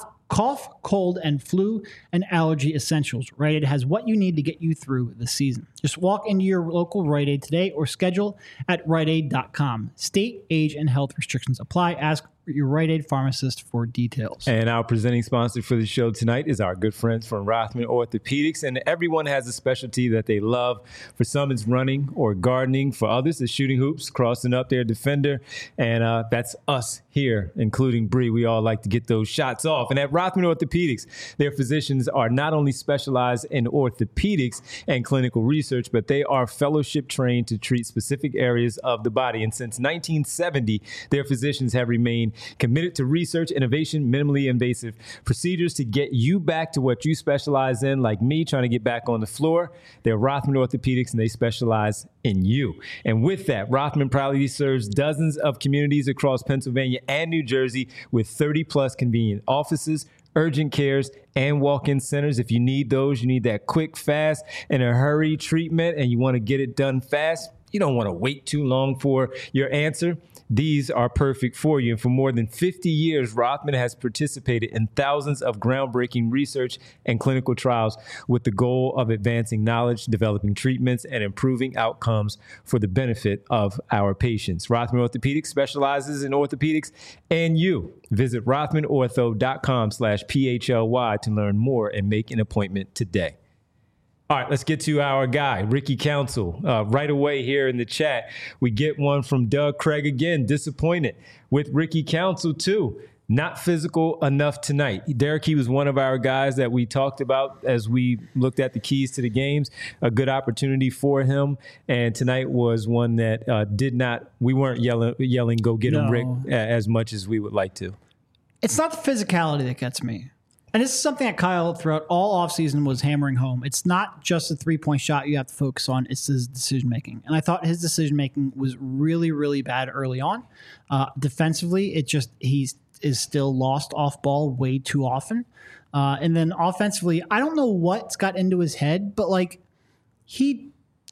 cold, and flu and allergy essentials. Rite Aid has what you need to get you through the season. Just walk into your local Rite Aid today or schedule at riteaid.com. State, age, and health restrictions apply. Ask your Rite Aid pharmacist for details. And our presenting sponsor for the show tonight is our good friends from Rothman Orthopedics. And everyone has a specialty that they love. For some, it's running or gardening. For others, it's shooting hoops, crossing up their defender. And that's us here, including Bree. We all like to get those shots off. And at Rothman Orthopedics, their physicians are not only specialized in orthopedics and clinical research, but they are fellowship trained to treat specific areas of the body. And since 1970, their physicians have remained committed to research, innovation, minimally invasive procedures to get you back to what you specialize in, like me trying to get back on the floor. They're Rothman Orthopedics, and they specialize in you. And with that, Rothman proudly serves dozens of communities across Pennsylvania and New Jersey with 30-plus convenient offices, urgent cares, and walk-in centers. If you need those, you need that quick, fast, and a hurry treatment, and you want to get it done fast, you don't want to wait too long for your answer. These are perfect for you. And for more than 50 years, Rothman has participated in thousands of groundbreaking research and clinical trials with the goal of advancing knowledge, developing treatments, and improving outcomes for the benefit of our patients. Rothman Orthopedics specializes in orthopedics and you. Visit rothmanortho.com/PHLY to learn more and make an appointment today. All right, let's get to our guy, Ricky Council. Right away here in the chat, we get one from Doug Craig again. Disappointed with Ricky Council, too. Not physical enough tonight. Derek, he was one of our guys that we talked about as we looked at the keys to the games. A good opportunity for him. And tonight was one that we weren't yelling, go get him, Rick, as much as we would like to. It's not the physicality that gets me. And this is something that Kyle throughout all offseason was hammering home. It's not just a three-point shot you have to focus on. It's his decision-making. And I thought his decision-making was really, really bad early on. Defensively, he is still lost off ball way too often. And then offensively, I don't know what's got into his head, but he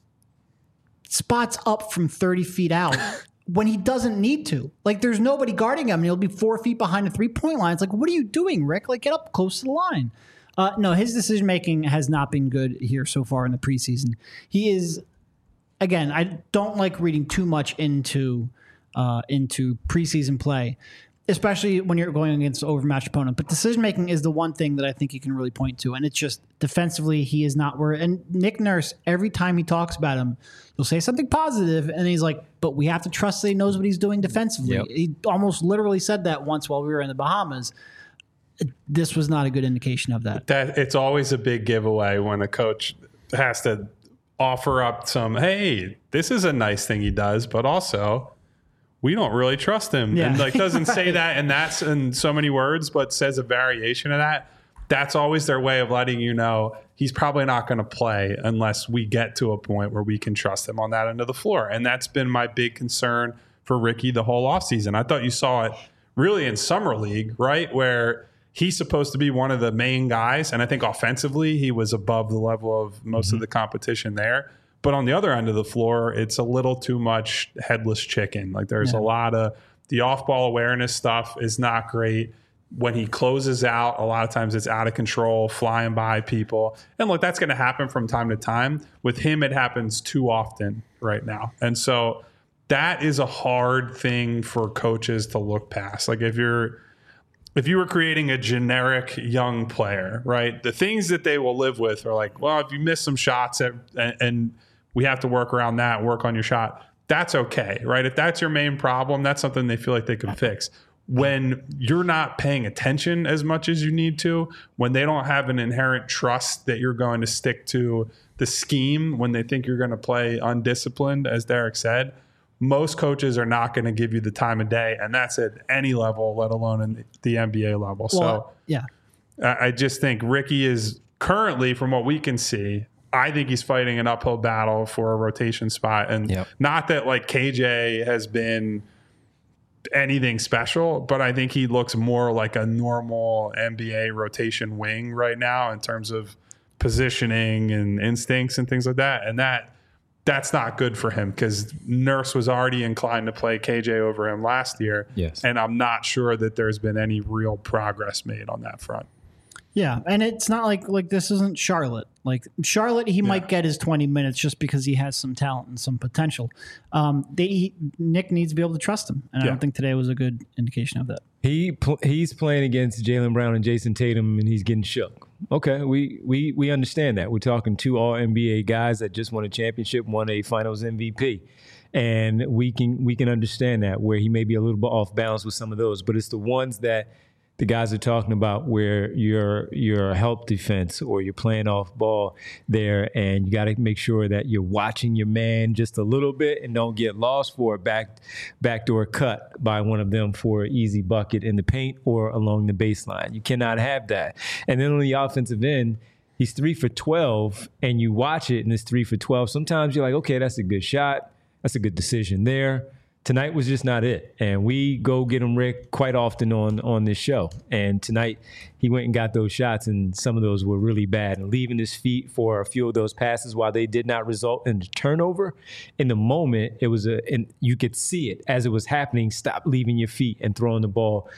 spots up from 30 feet out when he doesn't need to. There's nobody guarding him, and he'll be 4 feet behind the three-point line. It's what are you doing, Rick? Get up close to the line. No, his decision-making has not been good here so far in the preseason. He is again, I don't like reading too much into preseason play, especially when you're going against an overmatched opponent. But decision making is the one thing that I think you can really point to, and it's just defensively he is not where. And Nick Nurse, every time he talks about him, he'll say something positive, and he's like, "But we have to trust that he knows what he's doing defensively." Yep. He almost literally said that once while we were in the Bahamas. This was not a good indication of that. That it's always a big giveaway when a coach has to offer up some, hey, this is a nice thing he does, but also we don't really trust him. Yeah. And like doesn't say that, and that's in so many words, but says a variation of that. That's always their way of letting you know he's probably not going to play unless we get to a point where we can trust him on that end of the floor. And that's been my big concern for Ricky the whole offseason. I thought you saw it really in Summer League, right? Where he's supposed to be one of the main guys. And I think offensively, he was above the level of most of the competition there. But on the other end of the floor, it's a little too much headless chicken. Like there's a lot of the off-ball awareness stuff is not great. When he closes out, a lot of times it's out of control, flying by people. And look, that's going to happen from time to time. With him, it happens too often right now. And so that is a hard thing for coaches to look past. Like if you were creating a generic young player, right, the things that they will live with are like, well, if you miss some shots and we have to work around that, work on your shot, that's okay, right? If that's your main problem, that's something they feel like they can fix. When you're not paying attention as much as you need to, when they don't have an inherent trust that you're going to stick to the scheme, when they think you're going to play undisciplined, as Derek said, most coaches are not going to give you the time of day, and that's at any level, let alone in the NBA level. Well, yeah. I just think Ricky is currently, from what we can see, I think he's fighting an uphill battle for a rotation spot. And not that like KJ has been anything special, but I think he looks more like a normal NBA rotation wing right now in terms of positioning and instincts and things like that. And that's not good for him because Nurse was already inclined to play KJ over him last year. Yes. And I'm not sure that there's been any real progress made on that front. Yeah, and it's not like this isn't Charlotte. Like Charlotte, he might get his 20 minutes just because he has some talent and some potential. Nick needs to be able to trust him, and I don't think today was a good indication of that. He's playing against Jaylen Brown and Jason Tatum, and he's getting shook. Okay, we understand that. We're talking two All-NBA guys that just won a championship, won a Finals MVP. And we can understand that, where he may be a little bit off balance with some of those. But it's the ones that the guys are talking about where you're a help defense or you're playing off ball there, and you got to make sure that you're watching your man just a little bit and don't get lost for a backdoor cut by one of them for an easy bucket in the paint or along the baseline. You cannot have that. And then on the offensive end, he's 3 for 12, and you watch it and it's 3 for 12. Sometimes you're like, okay, that's a good shot. That's a good decision there. Tonight was just not it. And we go get him, Rick, quite often on this show. And tonight he went and got those shots, and some of those were really bad. And leaving his feet for a few of those passes, while they did not result in a turnover, in the moment, it was and you could see it as it was happening. Stop leaving your feet and throwing the ball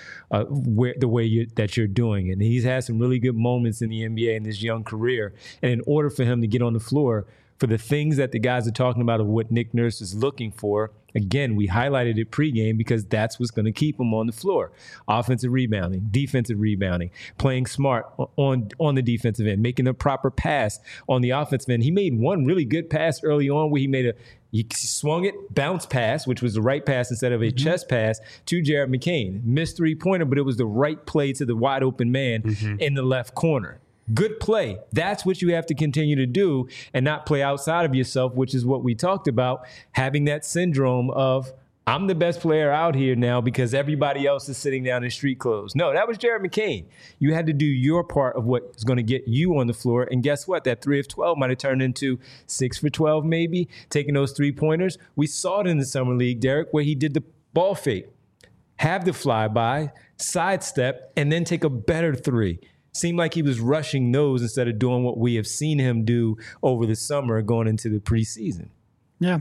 the way that you're doing. And he's had some really good moments in the NBA in his young career. And in order for him to get on the floor, for the things that the guys are talking about of what Nick Nurse is looking for, again, we highlighted it pregame because that's what's going to keep him on the floor. Offensive rebounding, defensive rebounding, playing smart on the defensive end, making the proper pass on the offensive end. He made one really good pass early on where he swung it, bounce pass, which was the right pass instead of a chest pass to Jared McCain. Missed three-pointer, but it was the right play to the wide open man in the left corner. Good play. That's what you have to continue to do and not play outside of yourself, which is what we talked about, having that syndrome of, I'm the best player out here now because everybody else is sitting down in street clothes. No, that was Jared McCain. You had to do your part of what is going to get you on the floor. And guess what? That 3 of 12 might have turned into 6 for 12 maybe, taking those three-pointers. We saw it in the Summer League, Derek, where he did the ball fake, have the flyby, sidestep, and then take a better three. Seemed like he was rushing those instead of doing what we have seen him do over the summer going into the preseason. Yeah.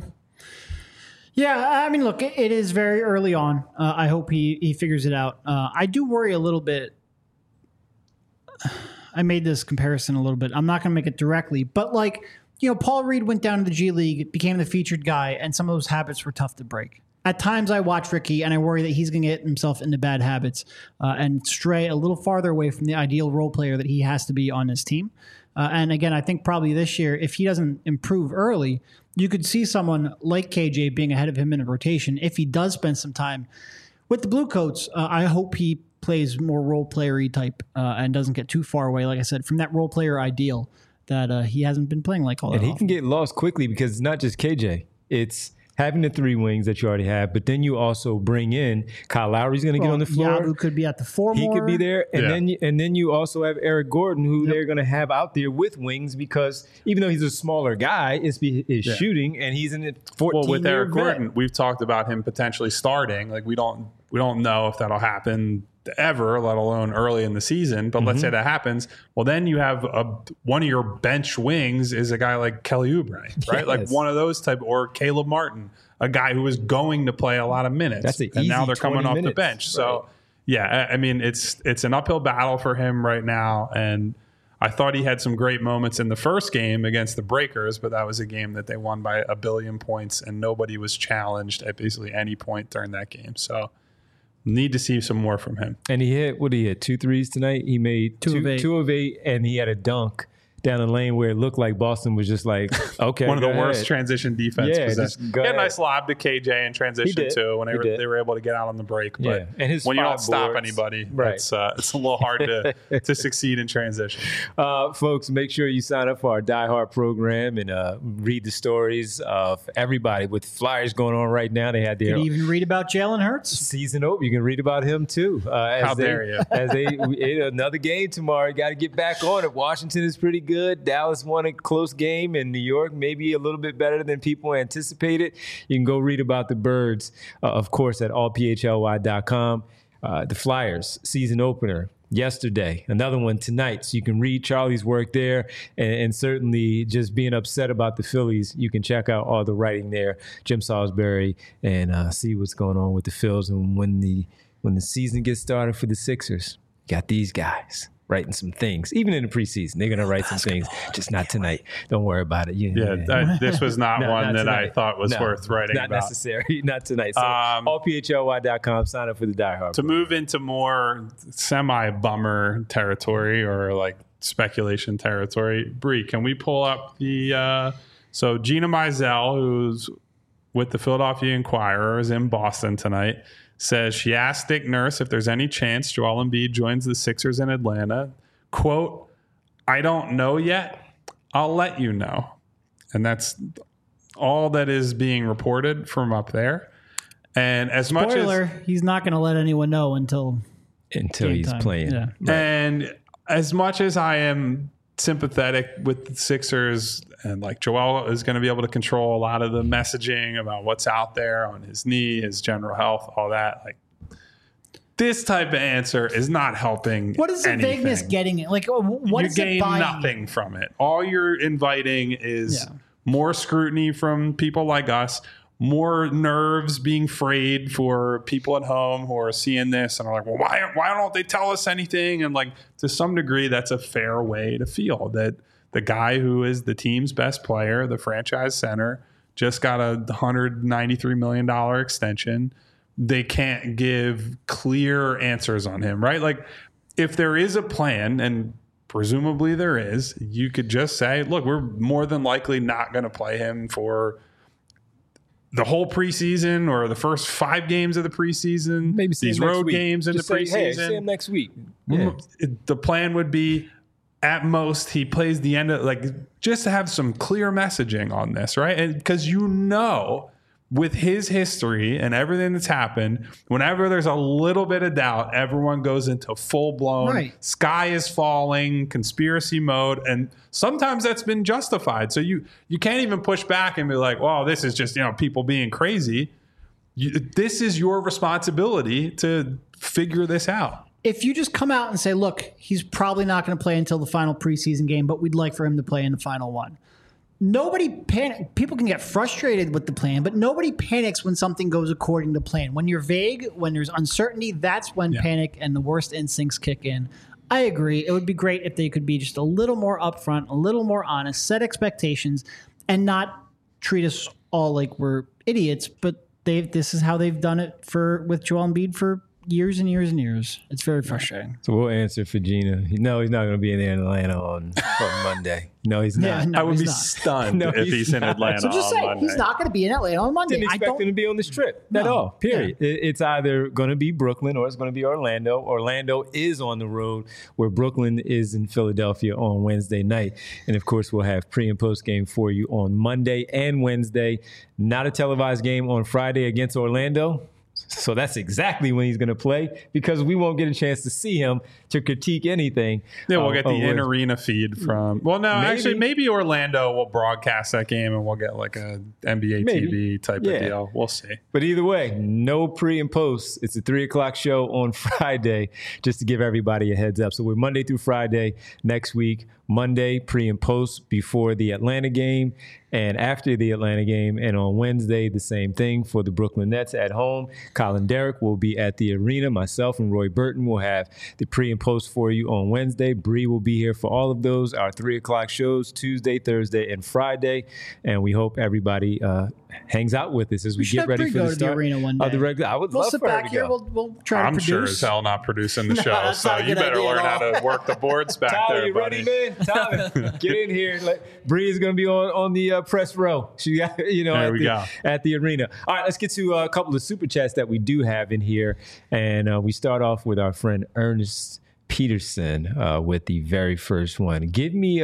Yeah, I mean, look, it is very early on. I hope he figures it out. I do worry a little bit. I made this comparison a little bit. I'm not going to make it directly, but like Paul Reed went down to the G League, became the featured guy, and some of those habits were tough to break. At times I watch Ricky and I worry that he's going to get himself into bad habits and stray a little farther away from the ideal role player that he has to be on his team. And again, I think probably this year, if he doesn't improve early, you could see someone like KJ being ahead of him in a rotation. If he does spend some time with the Bluecoats, I hope he plays more role player-y type and doesn't get too far away, like I said, from that role player ideal that he hasn't been playing like all that And he often. can get lost quickly because it's not just KJ. It's having the 3 wings that you already have, but then you also bring in Kyle Lowry's going to get on the floor. Yabu could be at the 4 He more. could be there, and Yeah. then you also have Eric Gordon, who they're going to have out there with wings because even though he's a smaller guy, is shooting, and he's in it 14. Well, with Eric Gordon, we've talked about him potentially starting. Like we don't know if that'll happen ever, let alone early in the season. But let's say that happens. Well, then you have one of your bench wings is a guy like Kelly Oubre, right? Yes. Like one of those type, or Caleb Martin, a guy who is going to play a lot of minutes. That's an and now easy they're coming 20 off minutes. the bench. So yeah, I mean it's an uphill battle for him right now. And I thought he had some great moments in the first game against the Breakers, but that was a game that they won by 1 billion points and nobody was challenged at basically any point during that game. So need to see some more from him. And he hit 2 threes tonight. He made 2 of 8, and he had a dunk down the lane where it looked like Boston was just like, okay, One of the go worst ahead. transition defense. Yeah, possessions. just go He had a ahead. nice lob to KJ in transition did. too when He did. they were able to get out on the break. But Yeah, and his when you 5 don't stop boards. anybody, Right. it's a little hard to succeed in transition. Folks, make sure you sign up for our Die Hard program and read the stories of everybody. With Flyers going on right now, they had their You even read about Jalen Hurts. season open. You can read about him too. How dare you. As another game tomorrow. You got to get back on it. Washington is pretty good. Dallas won a close game, and New York maybe a little bit better than people anticipated. You can go read about the Birds, of course, at allphly.com. The Flyers season opener yesterday, another one tonight. So you can read Charlie's work there, and certainly just being upset about the Phillies. You can check out all the writing there, Jim Salisbury, and see what's going on with the Phils. And when the season gets started for the Sixers, you got these guys writing some things. Even in the preseason, they're going to write some things. Just not tonight. Don't worry about it. This was not No, one not that tonight. I thought was No, worth writing not about. necessary. Not tonight. So allphly.com. Sign up for the Die Hard. To move into more semi-bummer territory or like speculation territory, Bree, can we pull up the so Gina Mizell, who's with the Philadelphia Inquirer, is in Boston tonight, says she asked Dick Nurse if there's any chance Joel Embiid joins the Sixers in Atlanta. Quote, "I don't know yet. I'll let you know." And that's all that is being reported from up there. And as much as Spoiler, he's not going to let anyone know until Until game he's time. playing. Yeah. And as much as I am sympathetic with the Sixers and like Joel is going to be able to control a lot of the messaging about what's out there on his knee, his general health, all that, like this type of answer is not helping. What is the anything. vagueness getting at? Like, what You is it gain buying? nothing from it. All you're inviting is Yeah. more scrutiny from people like us, more nerves being frayed for people at home who are seeing this and are like, well, why don't they tell us anything? And like, to some degree, that's a fair way to feel that the guy who is the team's best player, the franchise center, just got a $193 million extension. They can't give clear answers on him, right? Like, if there is a plan, and presumably there is, you could just say, look, we're more than likely not going to play him for the whole preseason or the first 5 games of the preseason, Maybe see these him next road week. games in Just the say, hey, preseason. see him next week. Yeah. The plan would be, at most, he plays the end of, like, just to have some clear messaging on this, right? And because with his history and everything that's happened, whenever there's a little bit of doubt, everyone goes into full-blown Right. sky is falling, conspiracy mode, and sometimes that's been justified. So you can't even push back and be like, well, this is just, people being crazy. This is your responsibility to figure this out. If you just come out and say, look, he's probably not going to play until the final preseason game, but we'd like for him to play in the final one. People can get frustrated with the plan, but nobody panics when something goes according to plan. When you're vague, when there's uncertainty, that's when panic and the worst instincts kick in. I agree. It would be great if they could be just a little more upfront, a little more honest, set expectations, and not treat us all like we're idiots. But this is how they've done it with Joel Embiid for years and years and years. It's very frustrating. So we'll answer for Gina. No, he's not going to be in Atlanta on Monday. No, he's not. Yeah, no, I would he's be not. stunned No, if he's he's in not. Atlanta So just on say Monday. he's not going to be in Atlanta on Monday. Didn't expect him to be on this trip at No. all. Period. It's either going to be Brooklyn or it's going to be Orlando. Orlando is on the road, where Brooklyn is in Philadelphia on Wednesday night. And of course, we'll have pre and post game for you on Monday and Wednesday. Not a televised game on Friday against Orlando. So that's exactly when he's going to play, because we won't get a chance to see him to critique anything. Yeah, we'll get the in-arena feed from... Well, no, actually, maybe Orlando will broadcast that game and we'll get like a NBA TV type of deal. We'll see. But either way, no pre and post. It's a 3 o'clock show on Friday, just to give everybody a heads up. So we're Monday through Friday next week. Monday, pre and post before the Atlanta game and after the Atlanta game. And on Wednesday, the same thing for the Brooklyn Nets at home. Colin Derrick will be at the arena. Myself and Roy Burton will have the pre and post for you on Wednesday. Bree will be here for all of those, our 3 o'clock shows, Tuesday, Thursday, and Friday. And we hope everybody hangs out with us as we get ready for the start the arena one day. of the regular. I would We'll love sit for her back to here. go. We'll try to I'm produce. sure as hell not producing the show, that's so not a you good better idea learn at how all. to work the boards back Tyler, there, you buddy. ready, man? Tyler, get in here. Bree is going to be on the press row. She got, at the arena. All right, let's get to a couple of super chats that we do have in here, and we start off with our friend Ernest Peterson with the very first one. Give me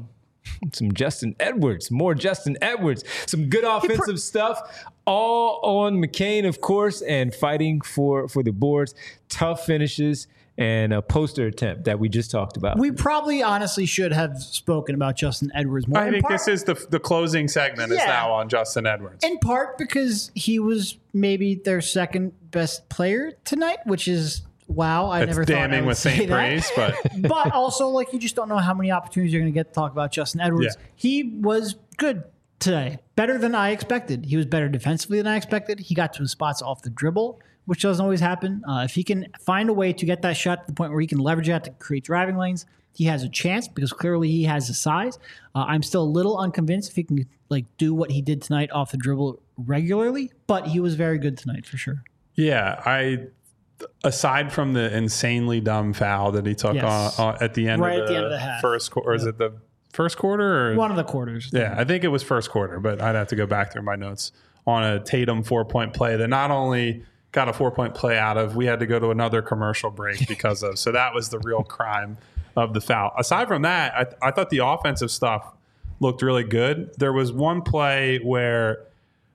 some Justin Edwards, more Justin Edwards, some good offensive stuff, all on McCain, of course, and fighting for the boards, tough finishes, and a poster attempt that we just talked about. We probably honestly should have spoken about Justin Edwards more. I think this is the closing segment is now on Justin Edwards. In part because he was maybe their second best player tonight, which is wow. I never thought I damning would with say St. that. Praise, but But also, like, you just don't know how many opportunities you're going to get to talk about Justin Edwards. Yeah. He was good today, better than I expected. He was better defensively than I expected. He got to his spots off the dribble, which doesn't always happen. If he can find a way to get that shot to the point where he can leverage that to create driving lanes, he has a chance because clearly he has the size. I'm still a little unconvinced if he can do what he did tonight off the dribble regularly, but he was very good tonight for sure. yeah, aside from the insanely dumb foul that he took at the end Right of at the end of the half. first quarter, or is it the first quarter? Or? One of the quarters. Yeah, I think it was first quarter, but I'd have to go back through my notes on a Tatum 4-point play that not only got a 4-point play out of, we had to go to another commercial break because of. So that was the real crime of the foul. Aside from that, I thought the offensive stuff looked really good. There was one play where,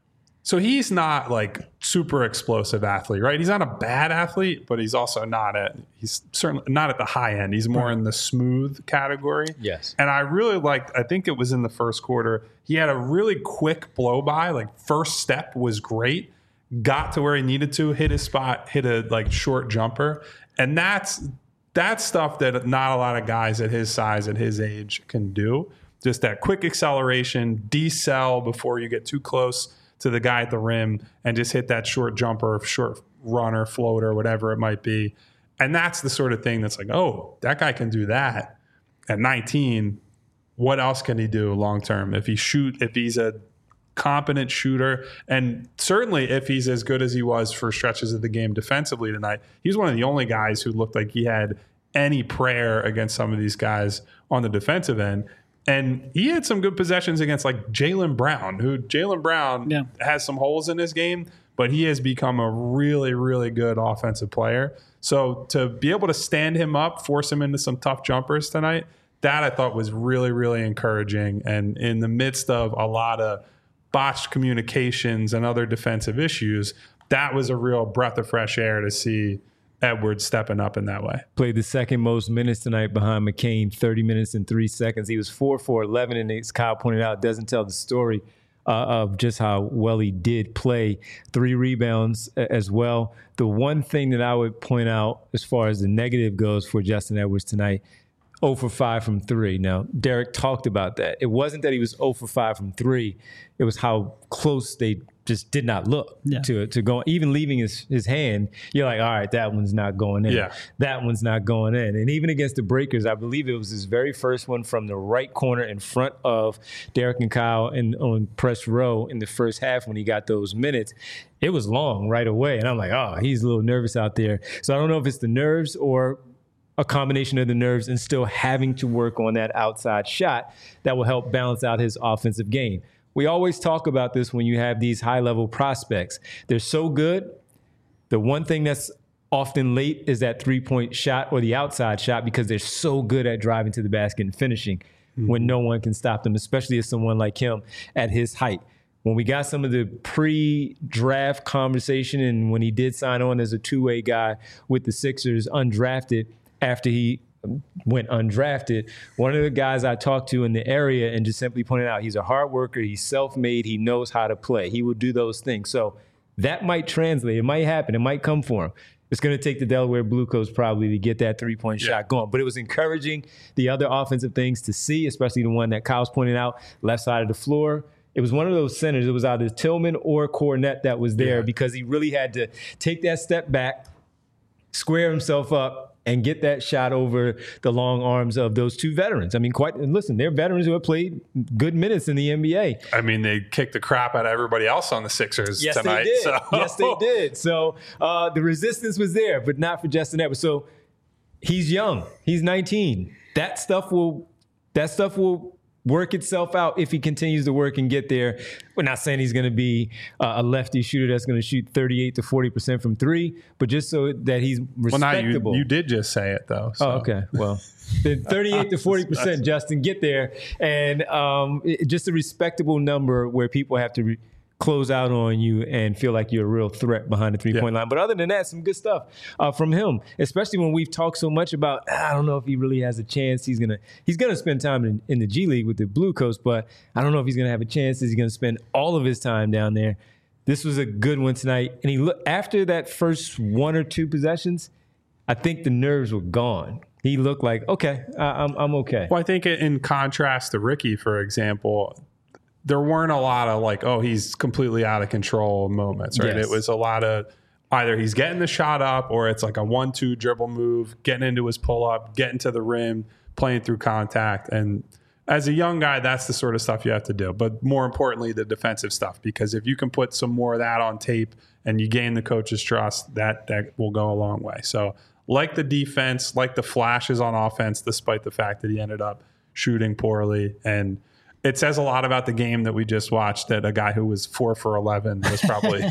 so he's not like super explosive athlete, right? He's not a bad athlete, but he's also he's certainly not at the high end. He's more in the smooth category. Yes. And I really liked, I think it was in the first quarter, he had a really quick blow by, like first step was great, got to where he needed to, hit his spot, hit a short jumper. And that's stuff that not a lot of guys at his size, at his age can do. Just that quick acceleration, decel before you get too close to the guy at the rim and just hit that short jumper, short runner, floater, whatever it might be. And that's the sort of thing that's like, oh, that guy can do that at 19. What else can he do long term? If he's a competent shooter, and certainly if he's as good as he was for stretches of the game defensively tonight, he's one of the only guys who looked like he had any prayer against some of these guys on the defensive end. And he had some good possessions against like Jaylen Brown, has some holes in his game, but he has become a really, really good offensive player. So to be able to stand him up, force him into some tough jumpers tonight, that I thought was really, really encouraging. And in the midst of a lot of botched communications and other defensive issues, that was a real breath of fresh air to see Edwards stepping up in that way. Played the second most minutes tonight behind McCain, 30 minutes and 3 seconds. He was 4 for 11, and as Kyle pointed out, doesn't tell the story of just how well he did play. 3 rebounds as well. The one thing that I would point out as far as the negative goes for Justin Edwards tonight, 0 for 5 from 3. Now, Derek talked about that. It wasn't that he was 0 for 5 from 3. It was how close they just did not look to go, even leaving his hand. You're like, all right, that one's not going in. Yeah. That one's not going in. And even against the Breakers, I believe it was his very first one from the right corner in front of Derek and Kyle on press row in the first half when he got those minutes. It was long right away. And I'm like, oh, he's a little nervous out there. So I don't know if it's the nerves or a combination of the nerves and still having to work on that outside shot that will help balance out his offensive game. We always talk about this when you have these high-level prospects. They're so good. The one thing that's often late is that three-point shot or the outside shot because they're so good at driving to the basket and finishing when no one can stop them, especially as someone like him at his height. When we got some of the pre-draft conversation and when he did sign on as a two-way guy with the Sixers undrafted after he went undrafted, one of the guys I talked to in the area and just simply pointed out he's a hard worker, he's self-made, he knows how to play. He will do those things. So that might translate. It might happen. It might come for him. It's going to take the Delaware Blue Coats probably to get that three-point shot going. But it was encouraging the other offensive things to see, especially the one that Kyle's pointed out, left side of the floor. It was one of those centers. It was either Tillman or Cornette that was there because he really had to take that step back, square himself up, and get that shot over the long arms of those two veterans. I mean, listen, they're veterans who have played good minutes in the NBA. I mean, they kicked the crap out of everybody else on the Sixers tonight. They did. So. Yes, they did. So the resistance was there, but not for Justin Edwards. So he's young. He's 19. That stuff will work itself out if he continues to work and get there. We're not saying he's going to be a lefty shooter that's going to shoot 38 to 40% from three, but just so that he's respectable. Well, you did just say it, though. So. Oh, okay. Well, then 38 to 40%, Justin, get there. And just a respectable number where people have to close out on you and feel like you're a real threat behind the three-point line. But other than that, some good stuff from him, especially when we've talked so much about, I don't know if he really has a chance. He's gonna spend time in the G League with the Blue Coats, but I don't know if he's going to have a chance. Is he going to spend all of his time down there? This was a good one tonight. And after that first one or two possessions, I think the nerves were gone. He looked like, okay, I'm okay. Well, I think in contrast to Ricky, for example, there weren't a lot of like, oh, he's completely out of control moments, right? Yes. It was a lot of either he's getting the shot up or it's like a 1-2 dribble move, getting into his pull up, getting to the rim, playing through contact. And as a young guy, that's the sort of stuff you have to do. But more importantly, the defensive stuff, because if you can put some more of that on tape and you gain the coach's trust, that will go a long way. So like the defense, like the flashes on offense, despite the fact that he ended up shooting poorly. And it says a lot about the game that we just watched that a guy who was 4 for 11 was probably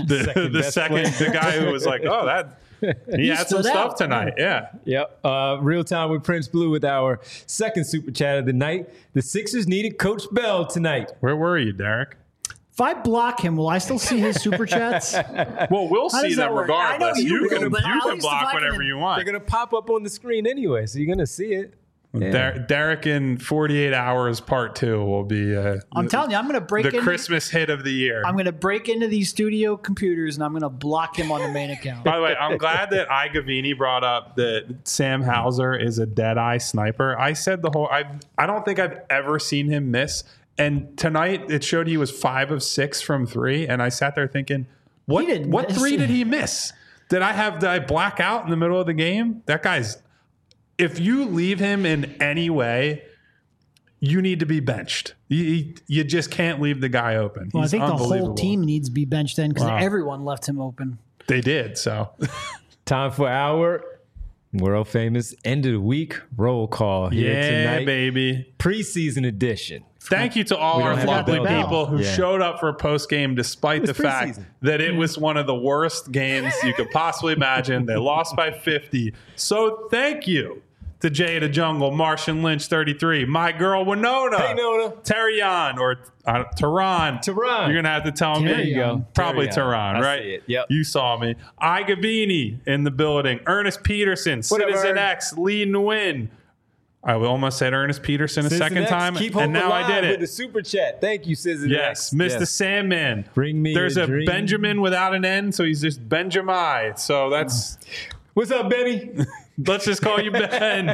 the guy who was like, oh, he had some stuff tonight. Yeah. Yep. Real time with Prince Blue with our second super chat of the night. The Sixers needed Coach Bell tonight. Where were you, Derek? If I block him, will I still see his super chats? Well, we'll see them regardless. You can block whatever you want. They're going to pop up on the screen anyway, so you're going to see it. Yeah. Derek in 48 Hours Part 2 will be I'm telling you, I'm going to break the Christmas hit of the year. I'm going to break into these studio computers and I'm going to block him on the main account. By the way, I'm glad that Gavini brought up that Sam Hauser is a dead-eye sniper. I said I don't think I've ever seen him miss. And tonight it showed he was 5 of 6 from 3. And I sat there thinking, what three did he miss? Did I black out in the middle of the game? That guy's... If you leave him in any way, you need to be benched. You just can't leave the guy open. Well, I think the whole team needs to be benched then because everyone left him open. They did, so. Time for our world famous end of the week roll call here tonight. Yeah, baby. Preseason edition. Thank you to all our lovely people who showed up for post-game despite the fact that it was one of the worst games you could possibly imagine. They lost by 50. So thank you to Jay the Jungle, Martian Lynch 33, my girl Winona, hey, Nona. Terrion, or Tehran. You're going to have to tell me. There you go. Probably Tehran, right? See it. Yep. You saw me. Gavini in the building. Ernest Peterson, Citizen X, Lee Nguyen. I almost said Ernest Peterson a second time, and now I did it. With the super chat. Thank you, Citizen X. Yes, Mr. Sandman. Bring me There's a dream. Benjamin without an N, so he's just Benjamin. So that's... What's up, Benny? Let's just call you Ben.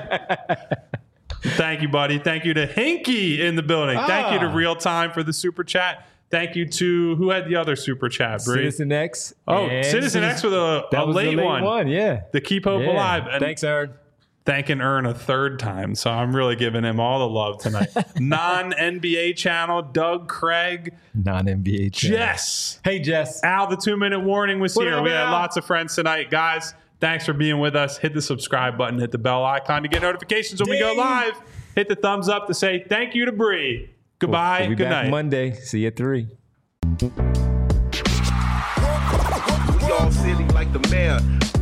Thank you, buddy. Thank you to Hinky in the building. Thank you to Real Time for the super chat. Thank you to who had the other super chat, Bree? Citizen X. Oh, and Citizen X with a that was the late one. Yeah. To keep hope Yeah. alive. And Thanks, Aaron. thanking Ern a third time. So I'm really giving him all the love tonight. Non-NBA channel, Doug Craig. Non-NBA channel. Jess. Hey, Jess. Al, the 2-minute warning was What here. up, We had Al? lots of friends tonight. Guys, thanks for being with us. Hit the subscribe button. Hit the bell icon to get notifications when we go Ding. live. Hit the thumbs up to say thank you to Bree. Goodbye. We'll be Good back night. Monday. See you at 3. We all silly like the mayor.